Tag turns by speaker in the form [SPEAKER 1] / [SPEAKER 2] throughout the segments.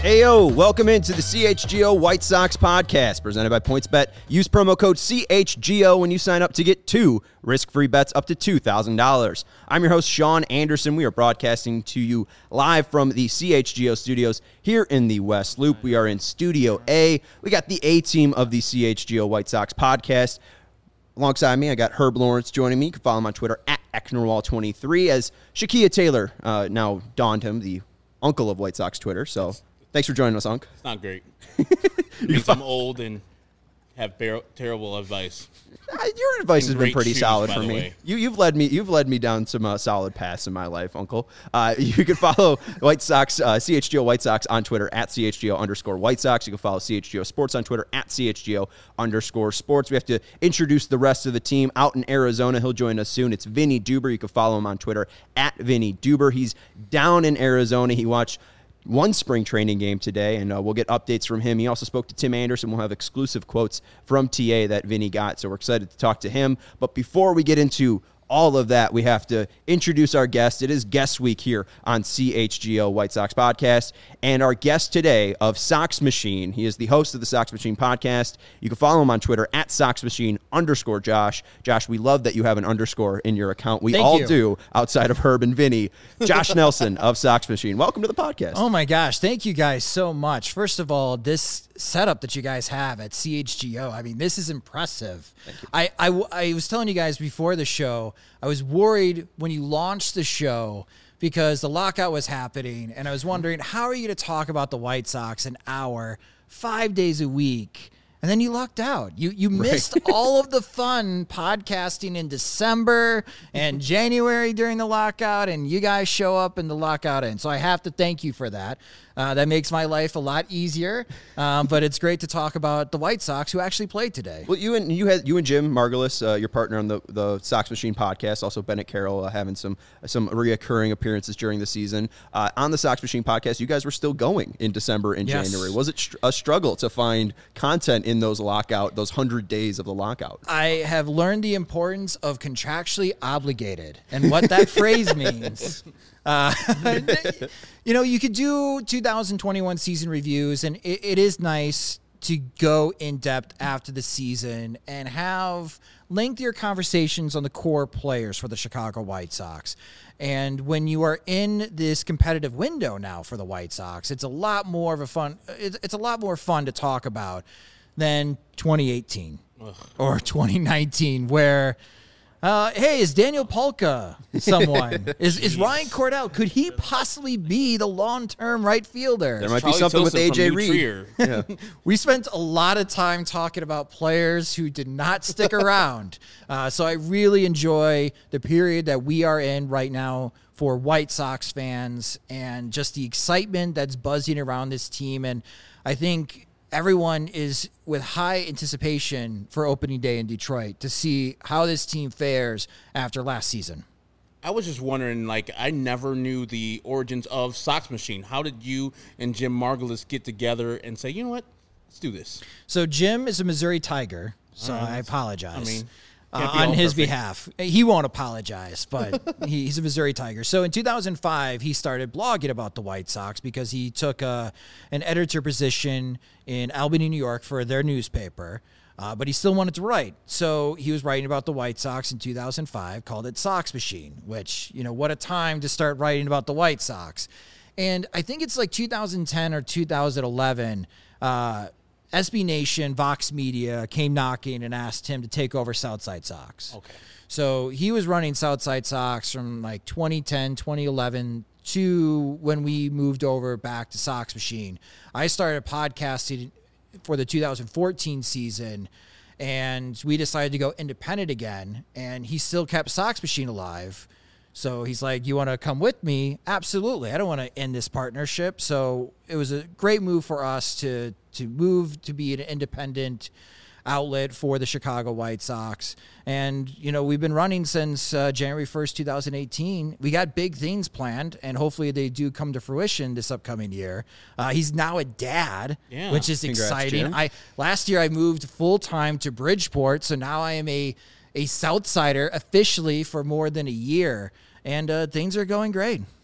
[SPEAKER 1] Ayo, welcome into the CHGO White Sox podcast presented by PointsBet. Use promo code CHGO when you sign up to get 2 risk-free bets up to $2,000. I'm your host, Sean Anderson. We are broadcasting to you live from the CHGO studios here in the West Loop. We are in Studio A. We got the A-team of the CHGO White Sox podcast. Alongside me, I got Herb Lawrence joining me. You can follow him on Twitter at Ecknerwall23 as Shakia Taylor now donned him, the uncle of White Sox Twitter. So thanks for joining us, Unc.
[SPEAKER 2] It's not great. Means I'm old and have terrible advice.
[SPEAKER 1] Your advice has been pretty
[SPEAKER 2] shoes,
[SPEAKER 1] solid for me. You've led me down some solid paths in my life, Uncle. You can follow White Sox, CHGO White Sox on Twitter at CHGO_White Sox. You can follow CHGO Sports on Twitter at CHGO_Sports. We have to introduce the rest of the team out in Arizona. He'll join us soon. It's Vinny Duber. You can follow him on Twitter at Vinny Duber. He's down in Arizona. He watched one spring training game today, and we'll get updates from him. He also spoke to Tim Anderson. We'll have exclusive quotes from TA that Vinny got, so we're excited to talk to him. But before we get into all of that, we have to introduce our guest. It is guest week here on CHGO White Sox podcast, and our guest today of Sox Machine. He is the host of the Sox Machine podcast. You can follow him on Twitter at SoxMachine_Josh. Josh, we love that you have an underscore in your account. We all do, outside of Herb and Vinny. Josh Nelson of Sox Machine. Welcome to the podcast.
[SPEAKER 3] Oh my gosh, thank you guys so much. First of all, this setup that you guys have at CHGO, I mean, this is impressive. Thank you. I was telling you guys before the show, I was worried when you launched the show because the lockout was happening, and I was wondering, how are you going to talk about the White Sox an hour, 5 days a week? And then you lucked out. You missed all of the fun podcasting in December and January during the lockout, and you guys show up in the lockout end. So I have to thank you for that. That makes my life a lot easier. But it's great to talk about the White Sox who actually played today.
[SPEAKER 1] Well, you and Jim Margulis, your partner on the Sox Machine podcast, also Bennett Carroll, having some reoccurring appearances during the season. On the Sox Machine podcast, you guys were still going in December and January. Was it a struggle to find content in those 100 days of the lockout?
[SPEAKER 3] I have learned the importance of contractually obligated and what that phrase means. You could do 2021 season reviews, and it is nice to go in depth after the season and have lengthier conversations on the core players for the Chicago White Sox. And when you are in this competitive window now for the White Sox, it's a lot more fun to talk about than 2018 or 2019, where hey, is Daniel Polka someone? Is Ryan Cordell? Could he possibly be the long-term right fielder?
[SPEAKER 1] There might be something with AJ Reed.
[SPEAKER 3] Yeah. We spent a lot of time talking about players who did not stick around. So I really enjoy the period that we are in right now for White Sox fans and just the excitement that's buzzing around this team. And I think everyone is with high anticipation for opening day in Detroit to see how this team fares after last season.
[SPEAKER 2] I was just wondering, I never knew the origins of Sox Machine. How did you and Jim Margulis get together and say, you know what, let's do this?
[SPEAKER 3] So Jim is a Missouri Tiger, so I apologize. On his behalf. He won't apologize, but he's a Missouri Tiger. So in 2005, he started blogging about the White Sox because he took an editor position in Albany, New York for their newspaper, but he still wanted to write. So he was writing about the White Sox in 2005, called it Sox Machine, which, what a time to start writing about the White Sox. And I think it's 2010 or 2011, SB Nation, Vox Media came knocking and asked him to take over Southside Sox.
[SPEAKER 2] Okay.
[SPEAKER 3] So he was running Southside Sox from 2010, 2011 to when we moved over back to Sox Machine. I started podcasting for the 2014 season, and we decided to go independent again, and he still kept Sox Machine alive. So he's like, you want to come with me? Absolutely. I don't want to end this partnership. So it was a great move for us to move to be an independent outlet for the Chicago White Sox. And, we've been running since January 1st, 2018. We got big things planned, and hopefully they do come to fruition this upcoming year. He's now a dad, which is exciting.
[SPEAKER 1] Jim.
[SPEAKER 3] Last year I moved full-time to Bridgeport, so now I am a Southsider officially for more than a year, and things are going great.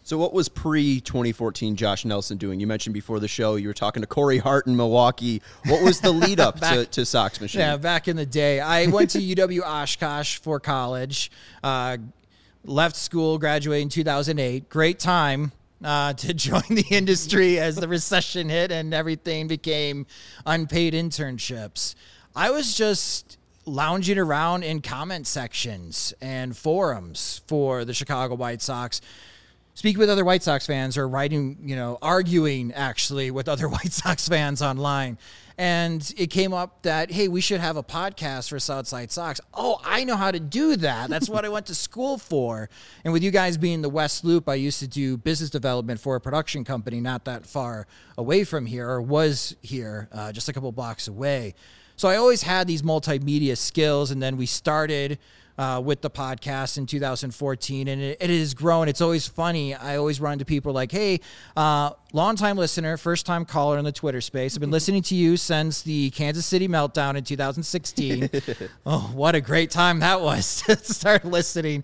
[SPEAKER 1] So what was pre-2014 Josh Nelson doing? You mentioned before the show you were talking to Corey Hart in Milwaukee. What was the lead up to Sox Machine?
[SPEAKER 3] Yeah, back in the day. I went to UW Oshkosh for college, left school, graduated in 2008. Great time to join the industry as the recession hit and everything became unpaid internships. I was just lounging around in comment sections and forums for the Chicago White Sox, speaking with other White Sox fans or writing, arguing actually with other White Sox fans online. And it came up that, hey, we should have a podcast for Southside Sox. Oh, I know how to do that. That's what I went to school for. And with you guys being the West Loop, I used to do business development for a production company not that far away from here, or was here, just a couple blocks away. So I always had these multimedia skills, and then we started with the podcast in 2014, and it has grown. It's always funny. I always run into people like, hey, long-time listener, first-time caller in the Twitter space. I've been listening to you since the Kansas City meltdown in 2016. Oh, what a great time that was to start listening.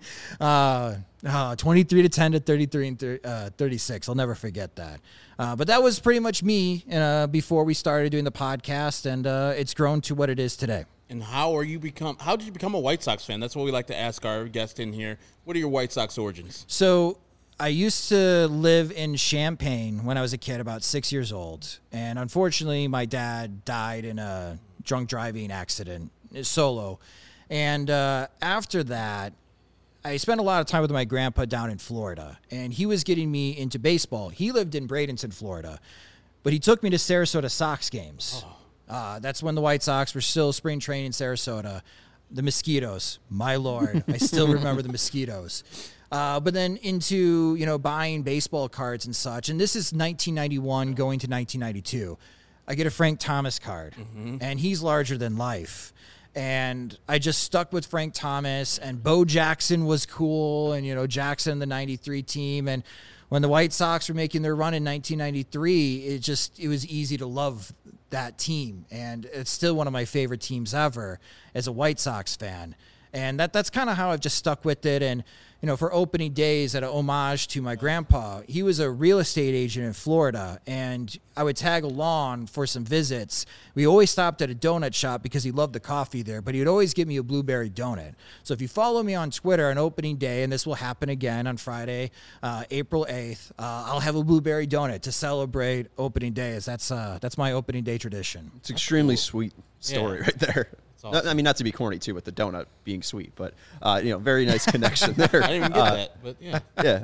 [SPEAKER 3] 23-10 to 33 and 36. I'll never forget that. But that was pretty much me before we started doing the podcast, and it's grown to what it is today.
[SPEAKER 2] And how did you become a White Sox fan? That's what we like to ask our guest in here. What are your White Sox origins?
[SPEAKER 3] So I used to live in Champaign when I was a kid, about 6 years old. And unfortunately, my dad died in a drunk driving accident, solo. And after that, I spent a lot of time with my grandpa down in Florida. And he was getting me into baseball. He lived in Bradenton, Florida. But he took me to Sarasota Sox games. Oh. That's when the White Sox were still spring training in Sarasota. The mosquitoes, my Lord. I still remember the mosquitoes. But then into, buying baseball cards and such. And this is 1991 going to 1992. I get a Frank Thomas card, and he's larger than life. And I just stuck with Frank Thomas, and Bo Jackson was cool, and, Jackson, the 93 team. And when the White Sox were making their run in 1993, it was easy to love that team. And it's still one of my favorite teams ever as a White Sox fan. And that's kind of how I've just stuck with it. And, for opening days, at a homage to my grandpa, he was a real estate agent in Florida, and I would tag along for some visits. We always stopped at a donut shop because he loved the coffee there, but he would always give me a blueberry donut. So if you follow me on Twitter on opening day, and this will happen again on Friday, April 8th, I'll have a blueberry donut to celebrate opening day. That's my opening day tradition.
[SPEAKER 1] It's an extremely sweet story right there. Awesome. I mean, not to be corny, too, with the donut being sweet, but, very nice connection there.
[SPEAKER 2] I didn't even get that, but yeah.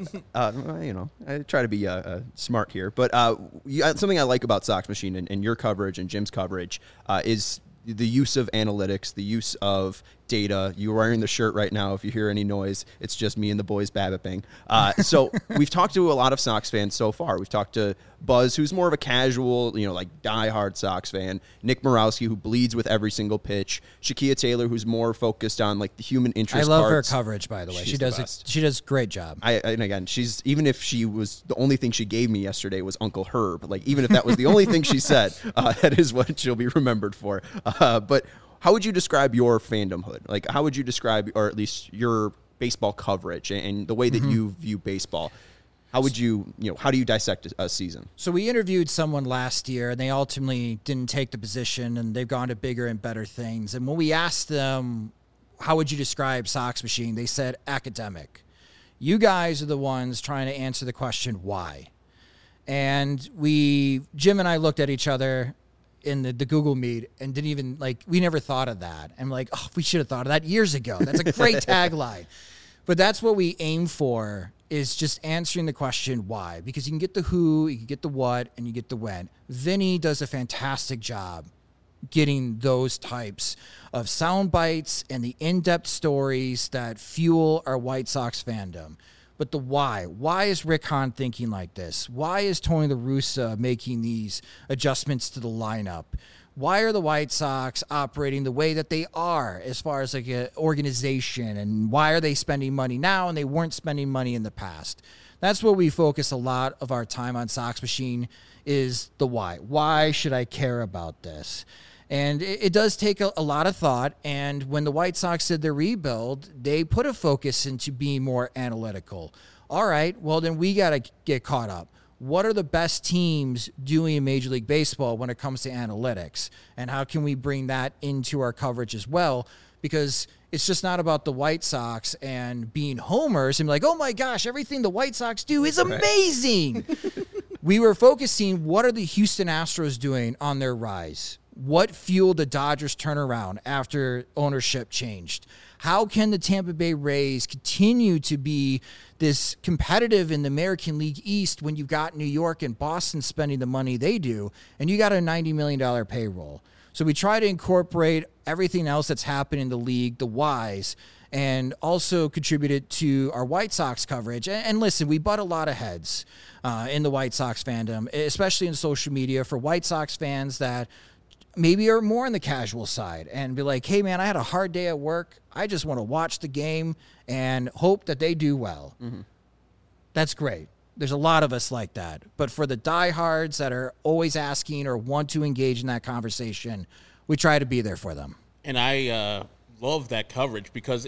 [SPEAKER 1] Yeah. I try to be smart here. But something I like about Sox Machine and your coverage and Jim's coverage is the use of analytics, the use of data. You're wearing the shirt right now. If you hear any noise, it's just me and the boys babbipping. So we've talked to a lot of Sox fans so far. We've talked to Buzz, who's more of a casual, diehard Sox fan. Nick Morawski, who bleeds with every single pitch. Shakia Taylor, who's more focused on the human interest.
[SPEAKER 3] I love
[SPEAKER 1] parts.
[SPEAKER 3] her coverage, by the way. She does a great job.
[SPEAKER 1] And again, even if she was the only thing she gave me yesterday was Uncle Herb. Even if that was the only thing she said, that is what she'll be remembered for. But how would you describe your fandomhood? How would you describe, or at least your baseball coverage and the way that you view baseball? How would how do you dissect a season?
[SPEAKER 3] So we interviewed someone last year, and they ultimately didn't take the position, and they've gone to bigger and better things. And when we asked them, how would you describe Sox Machine? They said academic. You guys are the ones trying to answer the question, why? And Jim and I looked at each other in the Google Meet and didn't even we never thought of that. I'm like, oh, we should have thought of that years ago. That's a great tagline. But that's what we aim for, is just answering the question why. Because you can get the who, you can get the what, and you get the when. Vinny does a fantastic job getting those types of sound bites and the in-depth stories that fuel our White Sox fandom. But the why. Why is Rick Hahn thinking like this? Why is Tony La Russa making these adjustments to the lineup? Why are the White Sox operating the way that they are as far as an organization? And why are they spending money now and they weren't spending money in the past? That's where we focus a lot of our time on Sox Machine, is the why. Why should I care about this? And it does take a lot of thought. And when the White Sox did their rebuild, they put a focus into being more analytical. All right, well, then we got to get caught up. What are the best teams doing in Major League Baseball when it comes to analytics? And how can we bring that into our coverage as well? Because it's just not about the White Sox and being homers and be like, oh my gosh, everything the White Sox do is amazing. We were focusing, what are the Houston Astros doing on their rise? What fueled the Dodgers turnaround after ownership changed? How can the Tampa Bay Rays continue to be this competitive in the American League East when you've got New York and Boston spending the money they do, and you got a $90 million payroll? So we try to incorporate everything else that's happened in the league, the whys, and also contributed to our White Sox coverage. And listen, we butt a lot of heads in the White Sox fandom, especially in social media, for White Sox fans that maybe are more on the casual side and be like, hey, man, I had a hard day at work. I just want to watch the game and hope that they do well. Mm-hmm. That's great. There's a lot of us like that. But for the diehards that are always asking or want to engage in that conversation, we try to be there for them.
[SPEAKER 2] And I love that coverage because,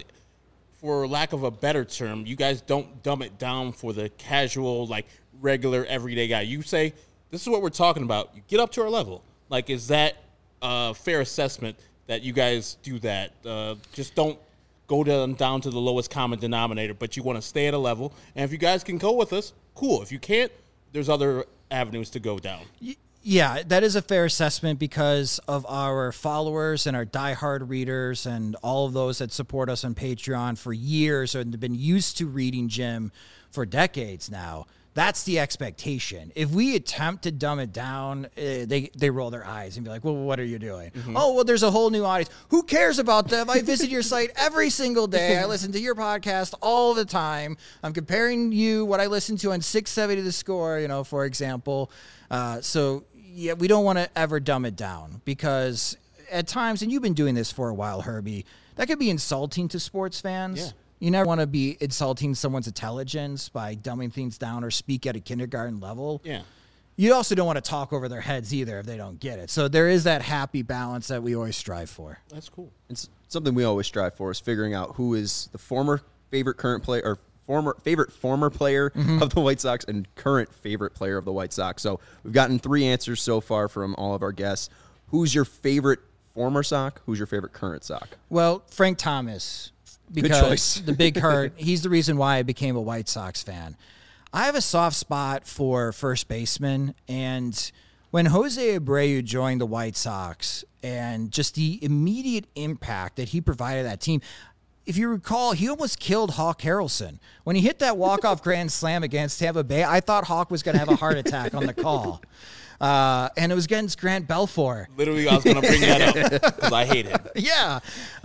[SPEAKER 2] for lack of a better term, you guys don't dumb it down for the casual, like, regular, everyday guy. You say, this is what we're talking about. You get up to our level. Like, is that a fair assessment that you guys do that? Just don't go down to the lowest common denominator, but you want to stay at a level. And if you guys can go with us, cool. If you can't, there's other avenues to go down.
[SPEAKER 3] Yeah, that is a fair assessment because of our followers and our diehard readers and all of those that support us on Patreon for years and have been used to reading Jim for decades now. That's the expectation. If we attempt to dumb it down, they roll their eyes and be like, well, what are you doing? Mm-hmm. Oh, well, there's a whole new audience. Who cares about them? I visit your site every single day. I listen to your podcast all the time. I'm comparing you, what I listen to on 670 The Score, for example. So, yeah, we don't want to ever dumb it down because at times, and you've been doing this for a while, Herbie, that could be insulting to sports fans. Yeah. You never want to be insulting someone's intelligence by dumbing things down or speak at a kindergarten level.
[SPEAKER 2] Yeah.
[SPEAKER 3] You also don't want to talk over their heads either if they don't get it. So there is that happy balance that we always strive for.
[SPEAKER 2] That's cool.
[SPEAKER 1] It's something we always strive for is figuring out who is the former favorite current player or former player of the White Sox and current favorite player of the White Sox. So we've gotten 3 answers so far from all of our guests. Who's your favorite former Sox? Who's your favorite current Sox?
[SPEAKER 3] Well, Frank Thomas. Because the big hurt, he's the reason why I became a White Sox fan. I have a soft spot for first baseman, and when Jose Abreu joined the White Sox and just the immediate impact that he provided that team, if you recall, he almost killed Hawk Harrelson. When he hit that walk-off grand slam against Tampa Bay, I thought Hawk was going to have a heart attack on the call. And it was against Grant Belfour.
[SPEAKER 2] Literally, I was going to bring that up because I hate him.
[SPEAKER 3] Yeah.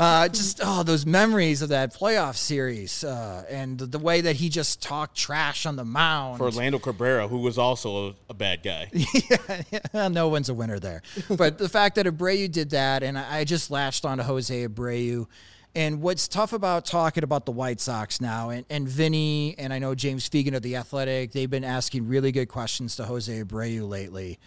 [SPEAKER 3] Those memories of that playoff series and the way that he just talked trash on the mound.
[SPEAKER 2] For Orlando Cabrera, who was also a bad guy.
[SPEAKER 3] Yeah, no one's a winner there. But the fact that Abreu did that, and I just latched on to Jose Abreu. And what's tough about talking about the White Sox now, and Vinny, and I know James Fegan of The Athletic, they've been asking really good questions to Jose Abreu lately,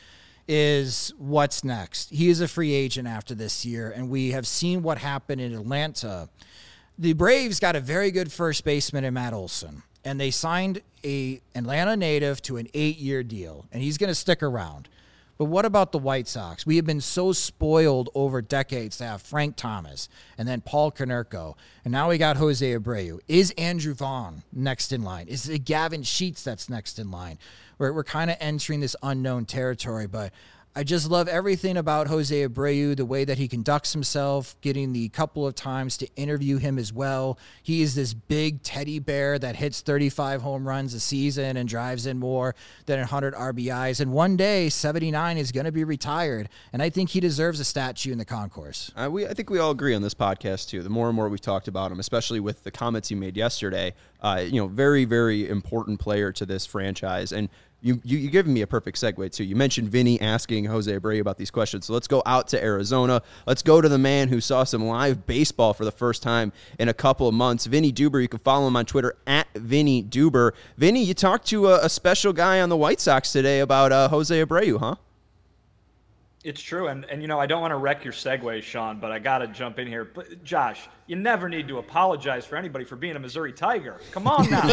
[SPEAKER 3] is what's next? He is a free agent after this year, and we have seen what happened in Atlanta. The Braves got a very good first baseman in Matt Olson, and they signed a Atlanta native to an 8-year deal, and he's going to stick around. But what about the White Sox? We have been so spoiled over decades to have Frank Thomas and then Paul Konerko. And now we got Jose Abreu. Is Andrew Vaughn next in line? Is it Gavin Sheets that's next in line? We're kind of entering this unknown territory, but I just love everything about Jose Abreu, the way that he conducts himself, getting the couple of times to interview him as well. He is this big teddy bear that hits 35 home runs a season and drives in more than 100 RBIs. And one day, 79 is going to be retired, and I think he deserves a statue in the concourse.
[SPEAKER 1] I think we all agree on this podcast, too. The more and more we've talked about him, especially with the comments he made yesterday, very, very important player to this franchise. And You given me a perfect segue, too. You mentioned Vinny asking Jose Abreu about these questions. So let's go out to Arizona. Let's go to the man who saw some live baseball for the first time in a couple of months, Vinny Duber. You can follow him on Twitter at Vinny Duber. Vinny, you talked to a special guy on the White Sox today about Jose Abreu, huh?
[SPEAKER 4] It's true, and I don't want to wreck your segue, Sean, but I got to jump in here. But Josh, you never need to apologize for anybody for being a Missouri Tiger. Come on now.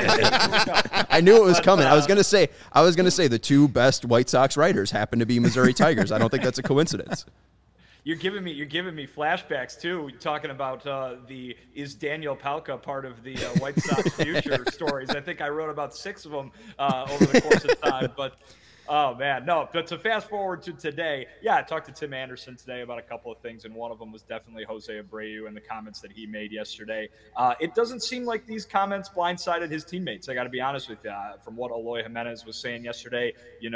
[SPEAKER 1] I knew it was coming. I was gonna say the two best White Sox writers happen to be Missouri Tigers. I don't think that's a coincidence.
[SPEAKER 4] You're giving me flashbacks too, talking about the is Daniel Palka part of the White Sox future stories. I think I wrote about 6 of them over the course of time, but. Oh, man. No, but to fast forward to today, I talked to Tim Anderson today about a couple of things, and one of them was definitely Jose Abreu and the comments that he made yesterday. It doesn't seem like these comments blindsided his teammates. I got to be honest with you. From what Eloy Jimenez was saying yesterday,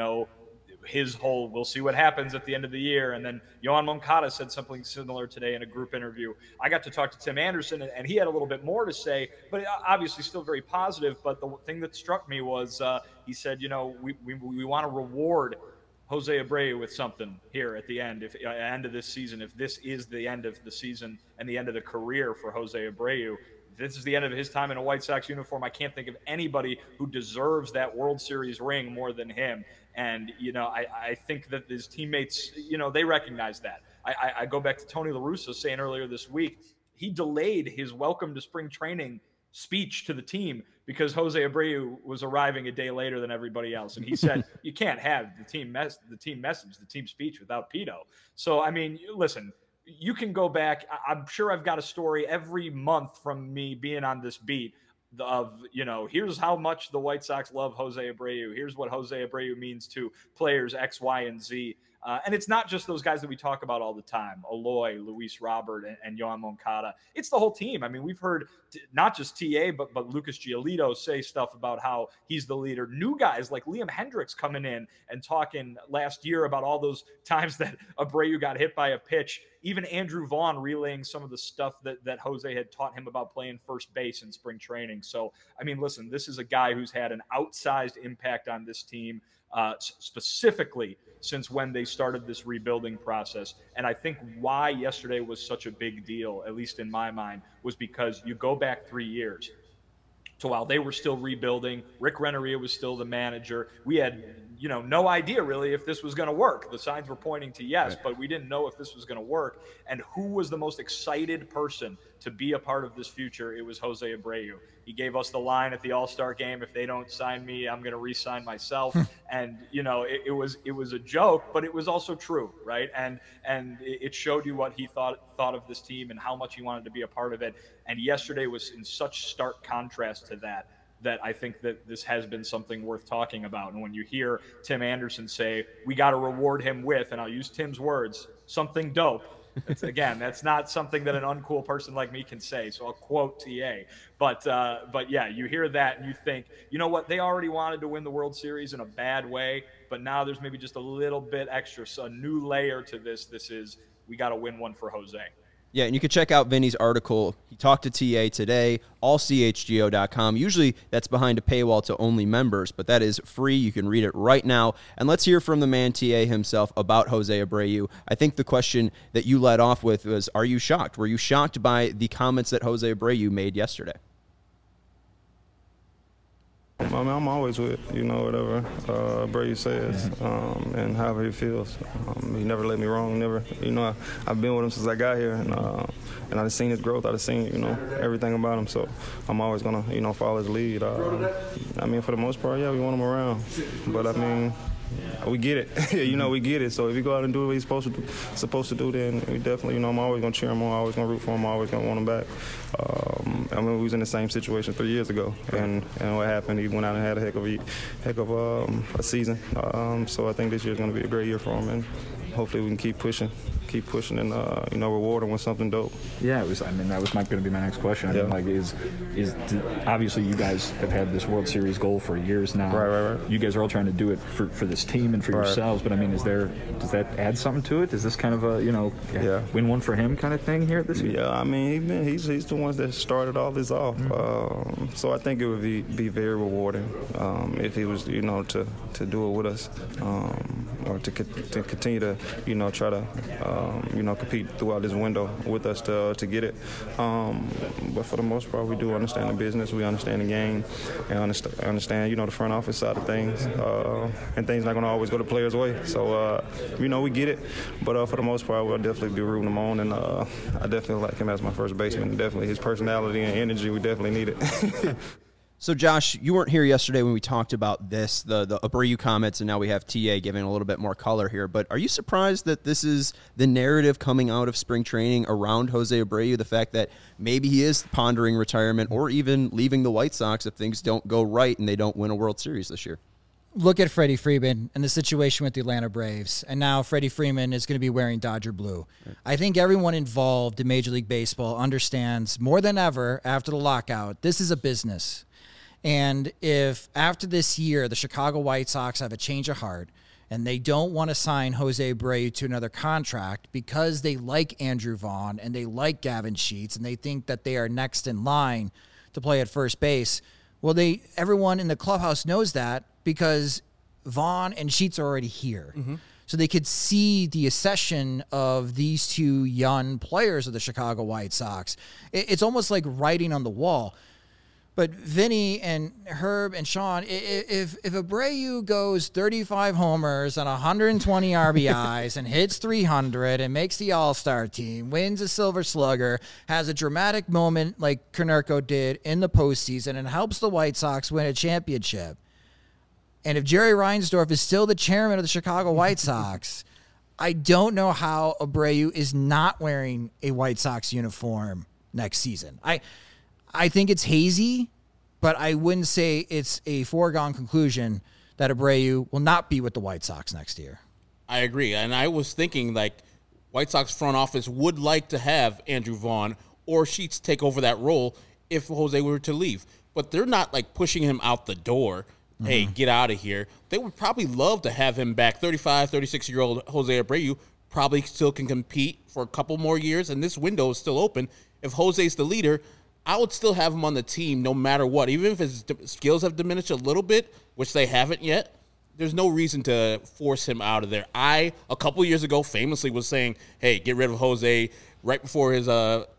[SPEAKER 4] his whole we'll see what happens at the end of the year. And then Yoan Moncada said something similar today in a group interview. I got to talk to Tim Anderson, and he had a little bit more to say, but obviously still very positive. But the thing that struck me was he said, we want to reward Jose Abreu with something here at the end, end of this season. If this is the end of the season and the end of the career for Jose Abreu, this is the end of his time in a White Sox uniform. I can't think of anybody who deserves that World Series ring more than him. And, I think that his teammates, they recognize that. I go back to Tony La Russa saying earlier this week, he delayed his welcome to spring training speech to the team because Jose Abreu was arriving a day later than everybody else. And he said, you can't have the team message, the team speech without Pito. So, I mean, listen, you can go back. I'm sure I've got a story every month from me being on this beat of, here's how much the White Sox love Jose Abreu. Here's what Jose Abreu means to players X, Y, and Z. And it's not just those guys that we talk about all the time, Eloy, Luis Robert, and Yoan Moncada. It's the whole team. I mean, we've heard not just TA, but Lucas Giolito say stuff about how he's the leader. New guys like Liam Hendricks coming in and talking last year about all those times that Abreu got hit by a pitch. Even Andrew Vaughn relaying some of the stuff that Jose had taught him about playing first base in spring training. So, I mean, listen, this is a guy who's had an outsized impact on this team, specifically since when they started this rebuilding process. And I think why yesterday was such a big deal, at least in my mind, was because you go back 3 years. So while they were still rebuilding, Rick Renneria was still the manager. We had, no idea really if this was going to work. The signs were pointing to yes, but we didn't know if this was going to work. And who was the most excited person to be a part of this future? It was Jose Abreu. He gave us the line at the All-Star game, if they don't sign me, I'm going to re-sign myself. And, it was a joke, but it was also true, right? And it showed you what he thought of this team and how much he wanted to be a part of it. And yesterday was in such stark contrast to that I think that this has been something worth talking about. And when you hear Tim Anderson say, we got to reward him with, and I'll use Tim's words, something dope. That's not something that an uncool person like me can say. So I'll quote TA. But yeah, you hear that and you think, you know what? They already wanted to win the World Series in a bad way, but now there's maybe just a little bit extra. So a new layer to this. This is, we got to win one for Jose.
[SPEAKER 1] Yeah, and you can check out Vinny's article. He talked to TA today, allchgo.com. Usually that's behind a paywall to only members, but that is free. You can read it right now. And let's hear from the man, TA himself, about Jose Abreu. I think the question that you led off with was, are you shocked? Were you shocked by the comments that Jose Abreu made yesterday?
[SPEAKER 5] I mean, I'm always with, whatever Abreu says and however he feels. He never let me wrong, never. I've been with him since I got here, and I've seen his growth. I've seen, everything about him. So I'm always going to, follow his lead. I mean, for the most part, yeah, we want him around. But, I mean, we get it. We get it. So if he go out and do what he's supposed to do, then we definitely, I'm always going to cheer him on. I'm always going to root for him. I'm always going to want him back. I mean, we was in the same situation 3 years ago, and what happened? He went out and had a heck of a season. So I think this year's going to be a great year for him, and hopefully we can keep pushing and reward him with something dope.
[SPEAKER 6] Yeah, that was going to be my next question.
[SPEAKER 5] Yeah.
[SPEAKER 6] I mean, obviously you guys have had this World Series goal for years now.
[SPEAKER 5] Right.
[SPEAKER 6] You guys are all trying to do it for this team and for yourselves. But I mean, does that add something to it? Is this kind of a win one for him kind of thing here this year?
[SPEAKER 5] Yeah, I mean, he's the ones that started all this off. So I think it would be very rewarding if he was to do it with us. or to continue to, try to, compete throughout this window with us to get it. But for the most part, we do understand the business. We understand the game and understand, the front office side of things. And things not going to always go the players' way. So, we get it. But for the most part, we'll definitely be rooting him on. And I definitely like him as my first baseman. Definitely his personality and energy, we definitely need it.
[SPEAKER 1] So, Josh, you weren't here yesterday when we talked about this, the Abreu comments, and now we have TA giving a little bit more color here. But are you surprised that this is the narrative coming out of spring training around Jose Abreu, the fact that maybe he is pondering retirement or even leaving the White Sox if things don't go right and they don't win a World Series this year?
[SPEAKER 3] Look at Freddie Freeman and the situation with the Atlanta Braves, and now Freddie Freeman is going to be wearing Dodger blue. Right. I think everyone involved in Major League Baseball understands more than ever after the lockout, this is a business. And if after this year the Chicago White Sox have a change of heart and they don't want to sign Jose Abreu to another contract because they like Andrew Vaughn and they like Gavin Sheets and they think that they are next in line to play at first base, well, everyone in the clubhouse knows that because Vaughn and Sheets are already here. Mm-hmm. So they could see the accession of these two young players of the Chicago White Sox. It's almost like writing on the wall. But Vinny and Herb and Sean, if Abreu goes 35 homers and 120 RBIs and hits 300 and makes the All-Star team, wins a Silver Slugger, has a dramatic moment like Konerko did in the postseason and helps the White Sox win a championship, and if Jerry Reinsdorf is still the chairman of the Chicago White Sox, I don't know how Abreu is not wearing a White Sox uniform next season. I think it's hazy, but I wouldn't say it's a foregone conclusion that Abreu will not be with the White Sox next year.
[SPEAKER 2] I agree. And I was thinking, White Sox front office would like to have Andrew Vaughn or Sheets take over that role if Jose were to leave. But they're not, pushing him out the door. Mm-hmm. Hey, get out of here. They would probably love to have him back. 35, 36-year-old Jose Abreu probably still can compete for a couple more years, and this window is still open. If Jose's the leader, I would still have him on the team no matter what. Even if his skills have diminished a little bit, which they haven't yet, there's no reason to force him out of there. A couple years ago, famously was saying, hey, get rid of Jose right before his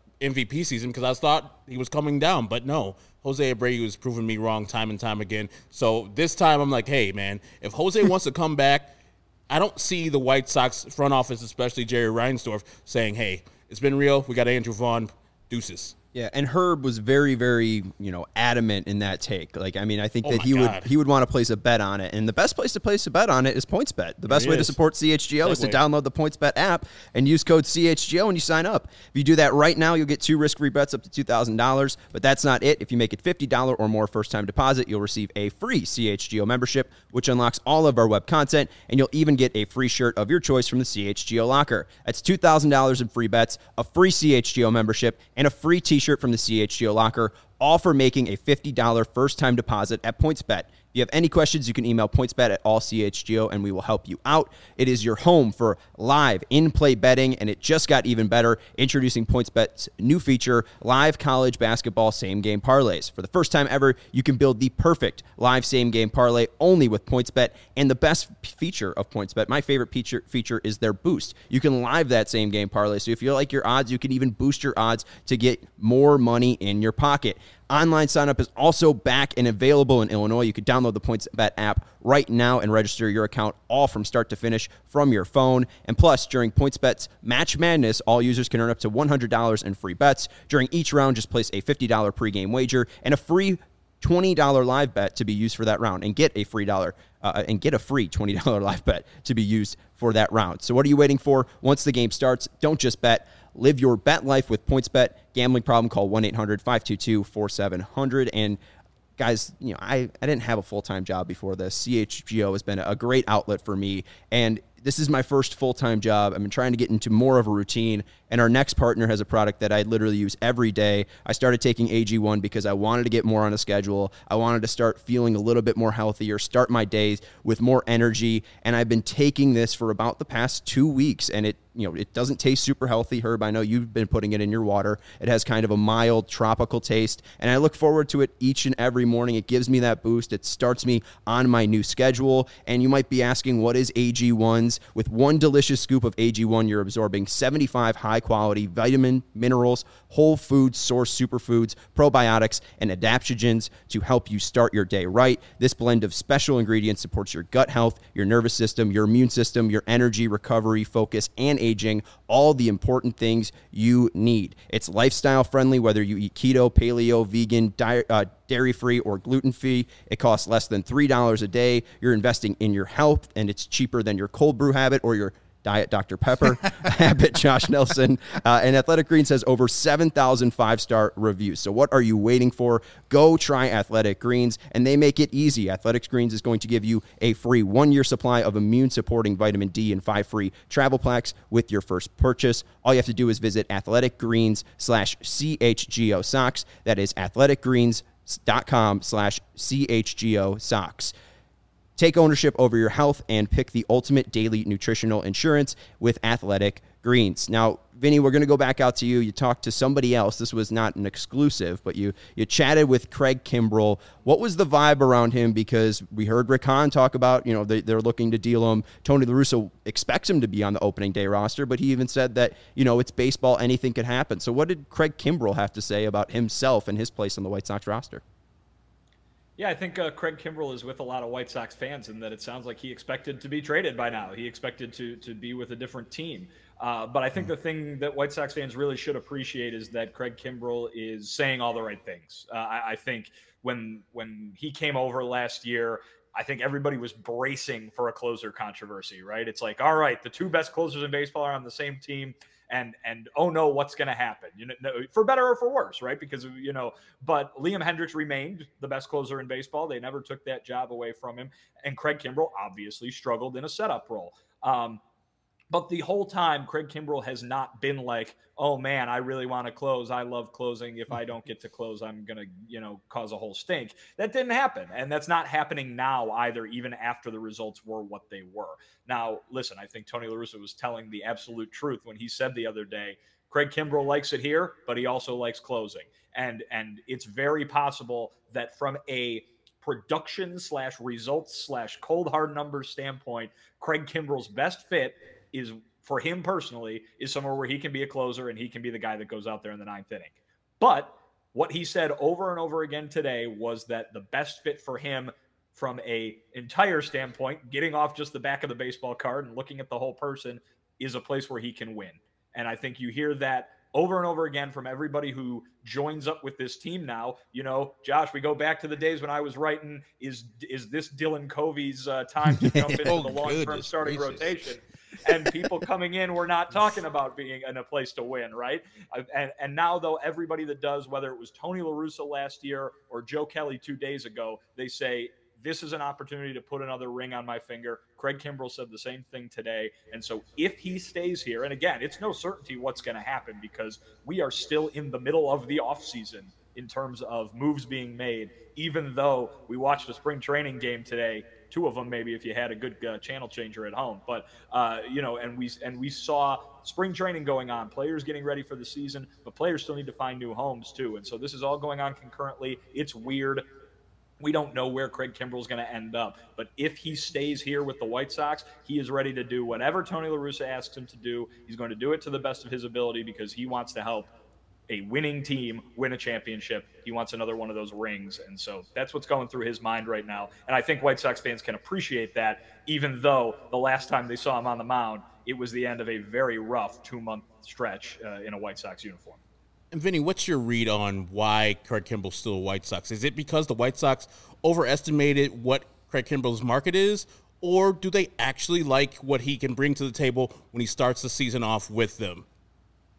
[SPEAKER 2] MVP season because I thought he was coming down. But no, Jose Abreu has proven me wrong time and time again. So this time I'm like, hey, man, if Jose wants to come back, I don't see the White Sox front office, especially Jerry Reinsdorf, saying, hey, it's been real. We got Andrew Vaughn. Deuces.
[SPEAKER 1] Yeah, and Herb was very, very, adamant in that take. I think that he would want to place a bet on it. And the best place to place a bet on it is PointsBet. The best way to support CHGO is to download the PointsBet app and use code CHGO when you sign up. If you do that right now, you'll get 2 risk-free bets up to $2,000. But that's not it. If you make it $50 or more first-time deposit, you'll receive a free CHGO membership, which unlocks all of our web content, and you'll even get a free shirt of your choice from the CHGO locker. That's $2,000 in free bets, a free CHGO membership, and a free t-shirt from the CHGO locker, all for making a $50 first-time deposit at PointsBet. If you have any questions, you can email pointsbet@allchgo, and we will help you out. It is your home for live in-play betting, and it just got even better, introducing PointsBet's new feature, live college basketball same-game parlays. For the first time ever, you can build the perfect live same-game parlay only with PointsBet, and the best feature of PointsBet, my favorite feature is their boost. You can live that same-game parlay, so if you like your odds, you can even boost your odds to get more money in your pocket. Online sign-up is also back and available in Illinois. You can download the PointsBet app right now and register your account all from start to finish from your phone. And plus, during PointsBet's Match Madness, all users can earn up to $100 in free bets. During each round, just place a $50 pregame wager and a free $20 live bet to be used for that round, and get a free $20 live bet to be used for that round. So what are you waiting for? Once the game starts, don't just bet. Live your bet life with PointsBet. Gambling problem, call 1-800-522-4700. And guys, I didn't have a full-time job before this. CHGO has been a great outlet for me. And this is my first full-time job. I've been trying to get into more of a routine, and our next partner has a product that I literally use every day. I started taking AG1 because I wanted to get more on a schedule. I wanted to start feeling a little bit more healthier, start my days with more energy, and I've been taking this for about the past 2 weeks, and it doesn't taste super healthy, Herb. I know you've been putting it in your water. It has kind of a mild tropical taste, and I look forward to it each and every morning. It gives me that boost. It starts me on my new schedule, and you might be asking, what is AG1s? With one delicious scoop of AG1, you're absorbing 75 high-quality vitamin, minerals, whole food source superfoods, probiotics, and adaptogens to help you start your day right. This blend of special ingredients supports your gut health, your nervous system, your immune system, your energy, recovery, focus, and aging, all the important things you need. It's lifestyle friendly, whether you eat keto, paleo, vegan, dairy-free, or gluten-free. It costs less than $3 a day. You're investing in your health, and it's cheaper than your cold brew habit or your Diet Dr. Pepper habit, Josh Nelson. And Athletic Greens has over 7,000 5-star reviews. So what are you waiting for? Go try Athletic Greens, and they make it easy. Athletic Greens is going to give you a free 1-year supply of immune-supporting vitamin D and 5 free travel packs with your first purchase. All you have to do is visit athleticgreens.com/CHGO socks. That is athleticgreens.com/CHGO socks. Take ownership over your health and pick the ultimate daily nutritional insurance with Athletic Greens. Now, Vinny, we're going to go back out to you. You talked to somebody else. This was not an exclusive, but you chatted with Craig Kimbrell. What was the vibe around him? Because we heard Rick Hahn talk about, they're looking to deal him. Tony La Russa expects him to be on the opening day roster, but he even said that, it's baseball, anything could happen. So what did Craig Kimbrell have to say about himself and his place on the White Sox roster?
[SPEAKER 4] Yeah, I think Craig Kimbrell is with a lot of White Sox fans in that it sounds like he expected to be traded by now. He expected to be with a different team. But I think the thing that White Sox fans really should appreciate is that Craig Kimbrell is saying all the right things. I think when he came over last year, I think everybody was bracing for a closer controversy, right? It's like, all right, the two best closers in baseball are on the same team. And oh no, what's going to happen? For better or for worse, right? Because but Liam Hendricks remained the best closer in baseball. They never took that job away from him, and Craig Kimbrell obviously struggled in a setup role. But the whole time, Craig Kimbrell has not been like, oh man, I really want to close. I love closing. If I don't get to close, I'm going to, cause a whole stink. That didn't happen. And that's not happening now either, even after the results were what they were. Now, listen, I think Tony La Russa was telling the absolute truth when he said the other day, Craig Kimbrell likes it here, but he also likes closing. And it's very possible that from a production / results / cold hard numbers standpoint, Craig Kimbrell's best fit is, for him personally, is somewhere where he can be a closer and he can be the guy that goes out there in the 9th inning. But what he said over and over again today was that the best fit for him from a entire standpoint, getting off just the back of the baseball card and looking at the whole person, is a place where he can win. And I think you hear that over and over again from everybody who joins up with this team now. Josh, we go back to the days when I was writing, is this Dylan Covey's time to jump into the long-term starting rotation? And people coming in were not talking about being in a place to win, right? And now, though, everybody that does, whether it was Tony La Russa last year or Joe Kelly 2 days ago, they say, this is an opportunity to put another ring on my finger. Craig Kimbrell said the same thing today. And so if he stays here, and again, it's no certainty what's going to happen because we are still in the middle of the offseason in terms of moves being made, even though we watched a spring training game today, 2 of them maybe if you had a good channel changer at home. But, and we saw spring training going on, players getting ready for the season, but players still need to find new homes too. And so this is all going on concurrently. It's weird. We don't know where Craig Kimbrell is going to end up. But if he stays here with the White Sox, he is ready to do whatever Tony La Russa asks him to do. He's going to do it to the best of his ability because he wants to help a winning team win a championship. He wants another one of those rings. And so that's what's going through his mind right now. And I think White Sox fans can appreciate that, even though the last time they saw him on the mound, it was the end of a very rough 2-month stretch in a White Sox uniform.
[SPEAKER 2] And Vinny, what's your read on why Craig Kimbrell's still a White Sox? Is it because the White Sox overestimated what Craig Kimbrell's market is, or do they actually like what he can bring to the table when he starts the season off with them?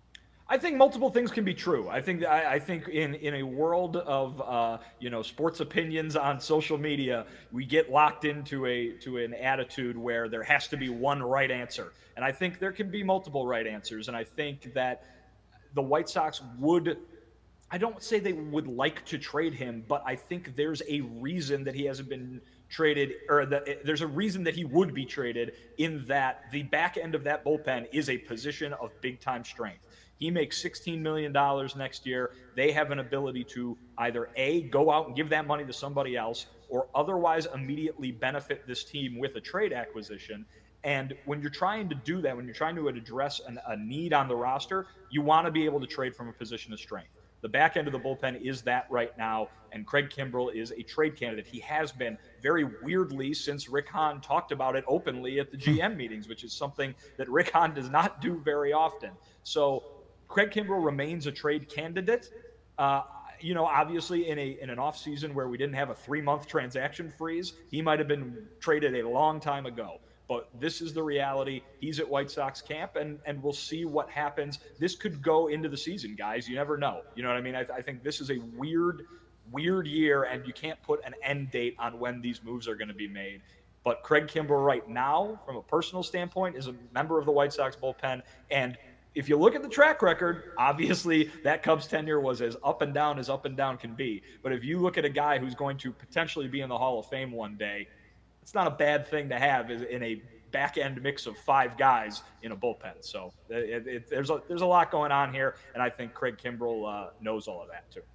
[SPEAKER 4] I think multiple things can be true. I think in a world of sports opinions on social media, we get locked into an attitude where there has to be one right answer, and I think there can be multiple right answers. And I think that the White Sox would. I don't say they would like to trade him, but I think there's a reason that he hasn't been traded, or that there's a reason that he would be traded, in that the back end of that bullpen is a position of big time strength. He makes $16 million next year. They have an ability to either A, go out and give that money to somebody else, or otherwise immediately benefit this team with a trade acquisition. And when you're trying to do that, when you're trying to address a need on the roster, you want to be able to trade from a position of strength. The back end of the bullpen is that right now, and Craig Kimbrel is a trade candidate. He has been, very weirdly, since Rick Hahn talked about it openly at the GM meetings, which is something that Rick Hahn does not do very often. So Craig Kimbrel remains a trade candidate. Obviously in an offseason where we didn't have a 3-month transaction freeze, he might have been traded a long time ago. But this is the reality. He's at White Sox camp, and we'll see what happens. This could go into the season, guys. You never know. You know what I mean? I think this is a weird year, and you can't put an end date on when these moves are going to be made. But Craig Kimbrel right now, from a personal standpoint, is a member of the White Sox bullpen. And if you look at the track record, obviously that Cubs tenure was as up and down can be. But if you look at a guy who's going to potentially be in the Hall of Fame one day, it's not a bad thing to have in a back-end mix of 5 guys in a bullpen. So there's a lot going on here, and I think Craig Kimbrel knows all of that too.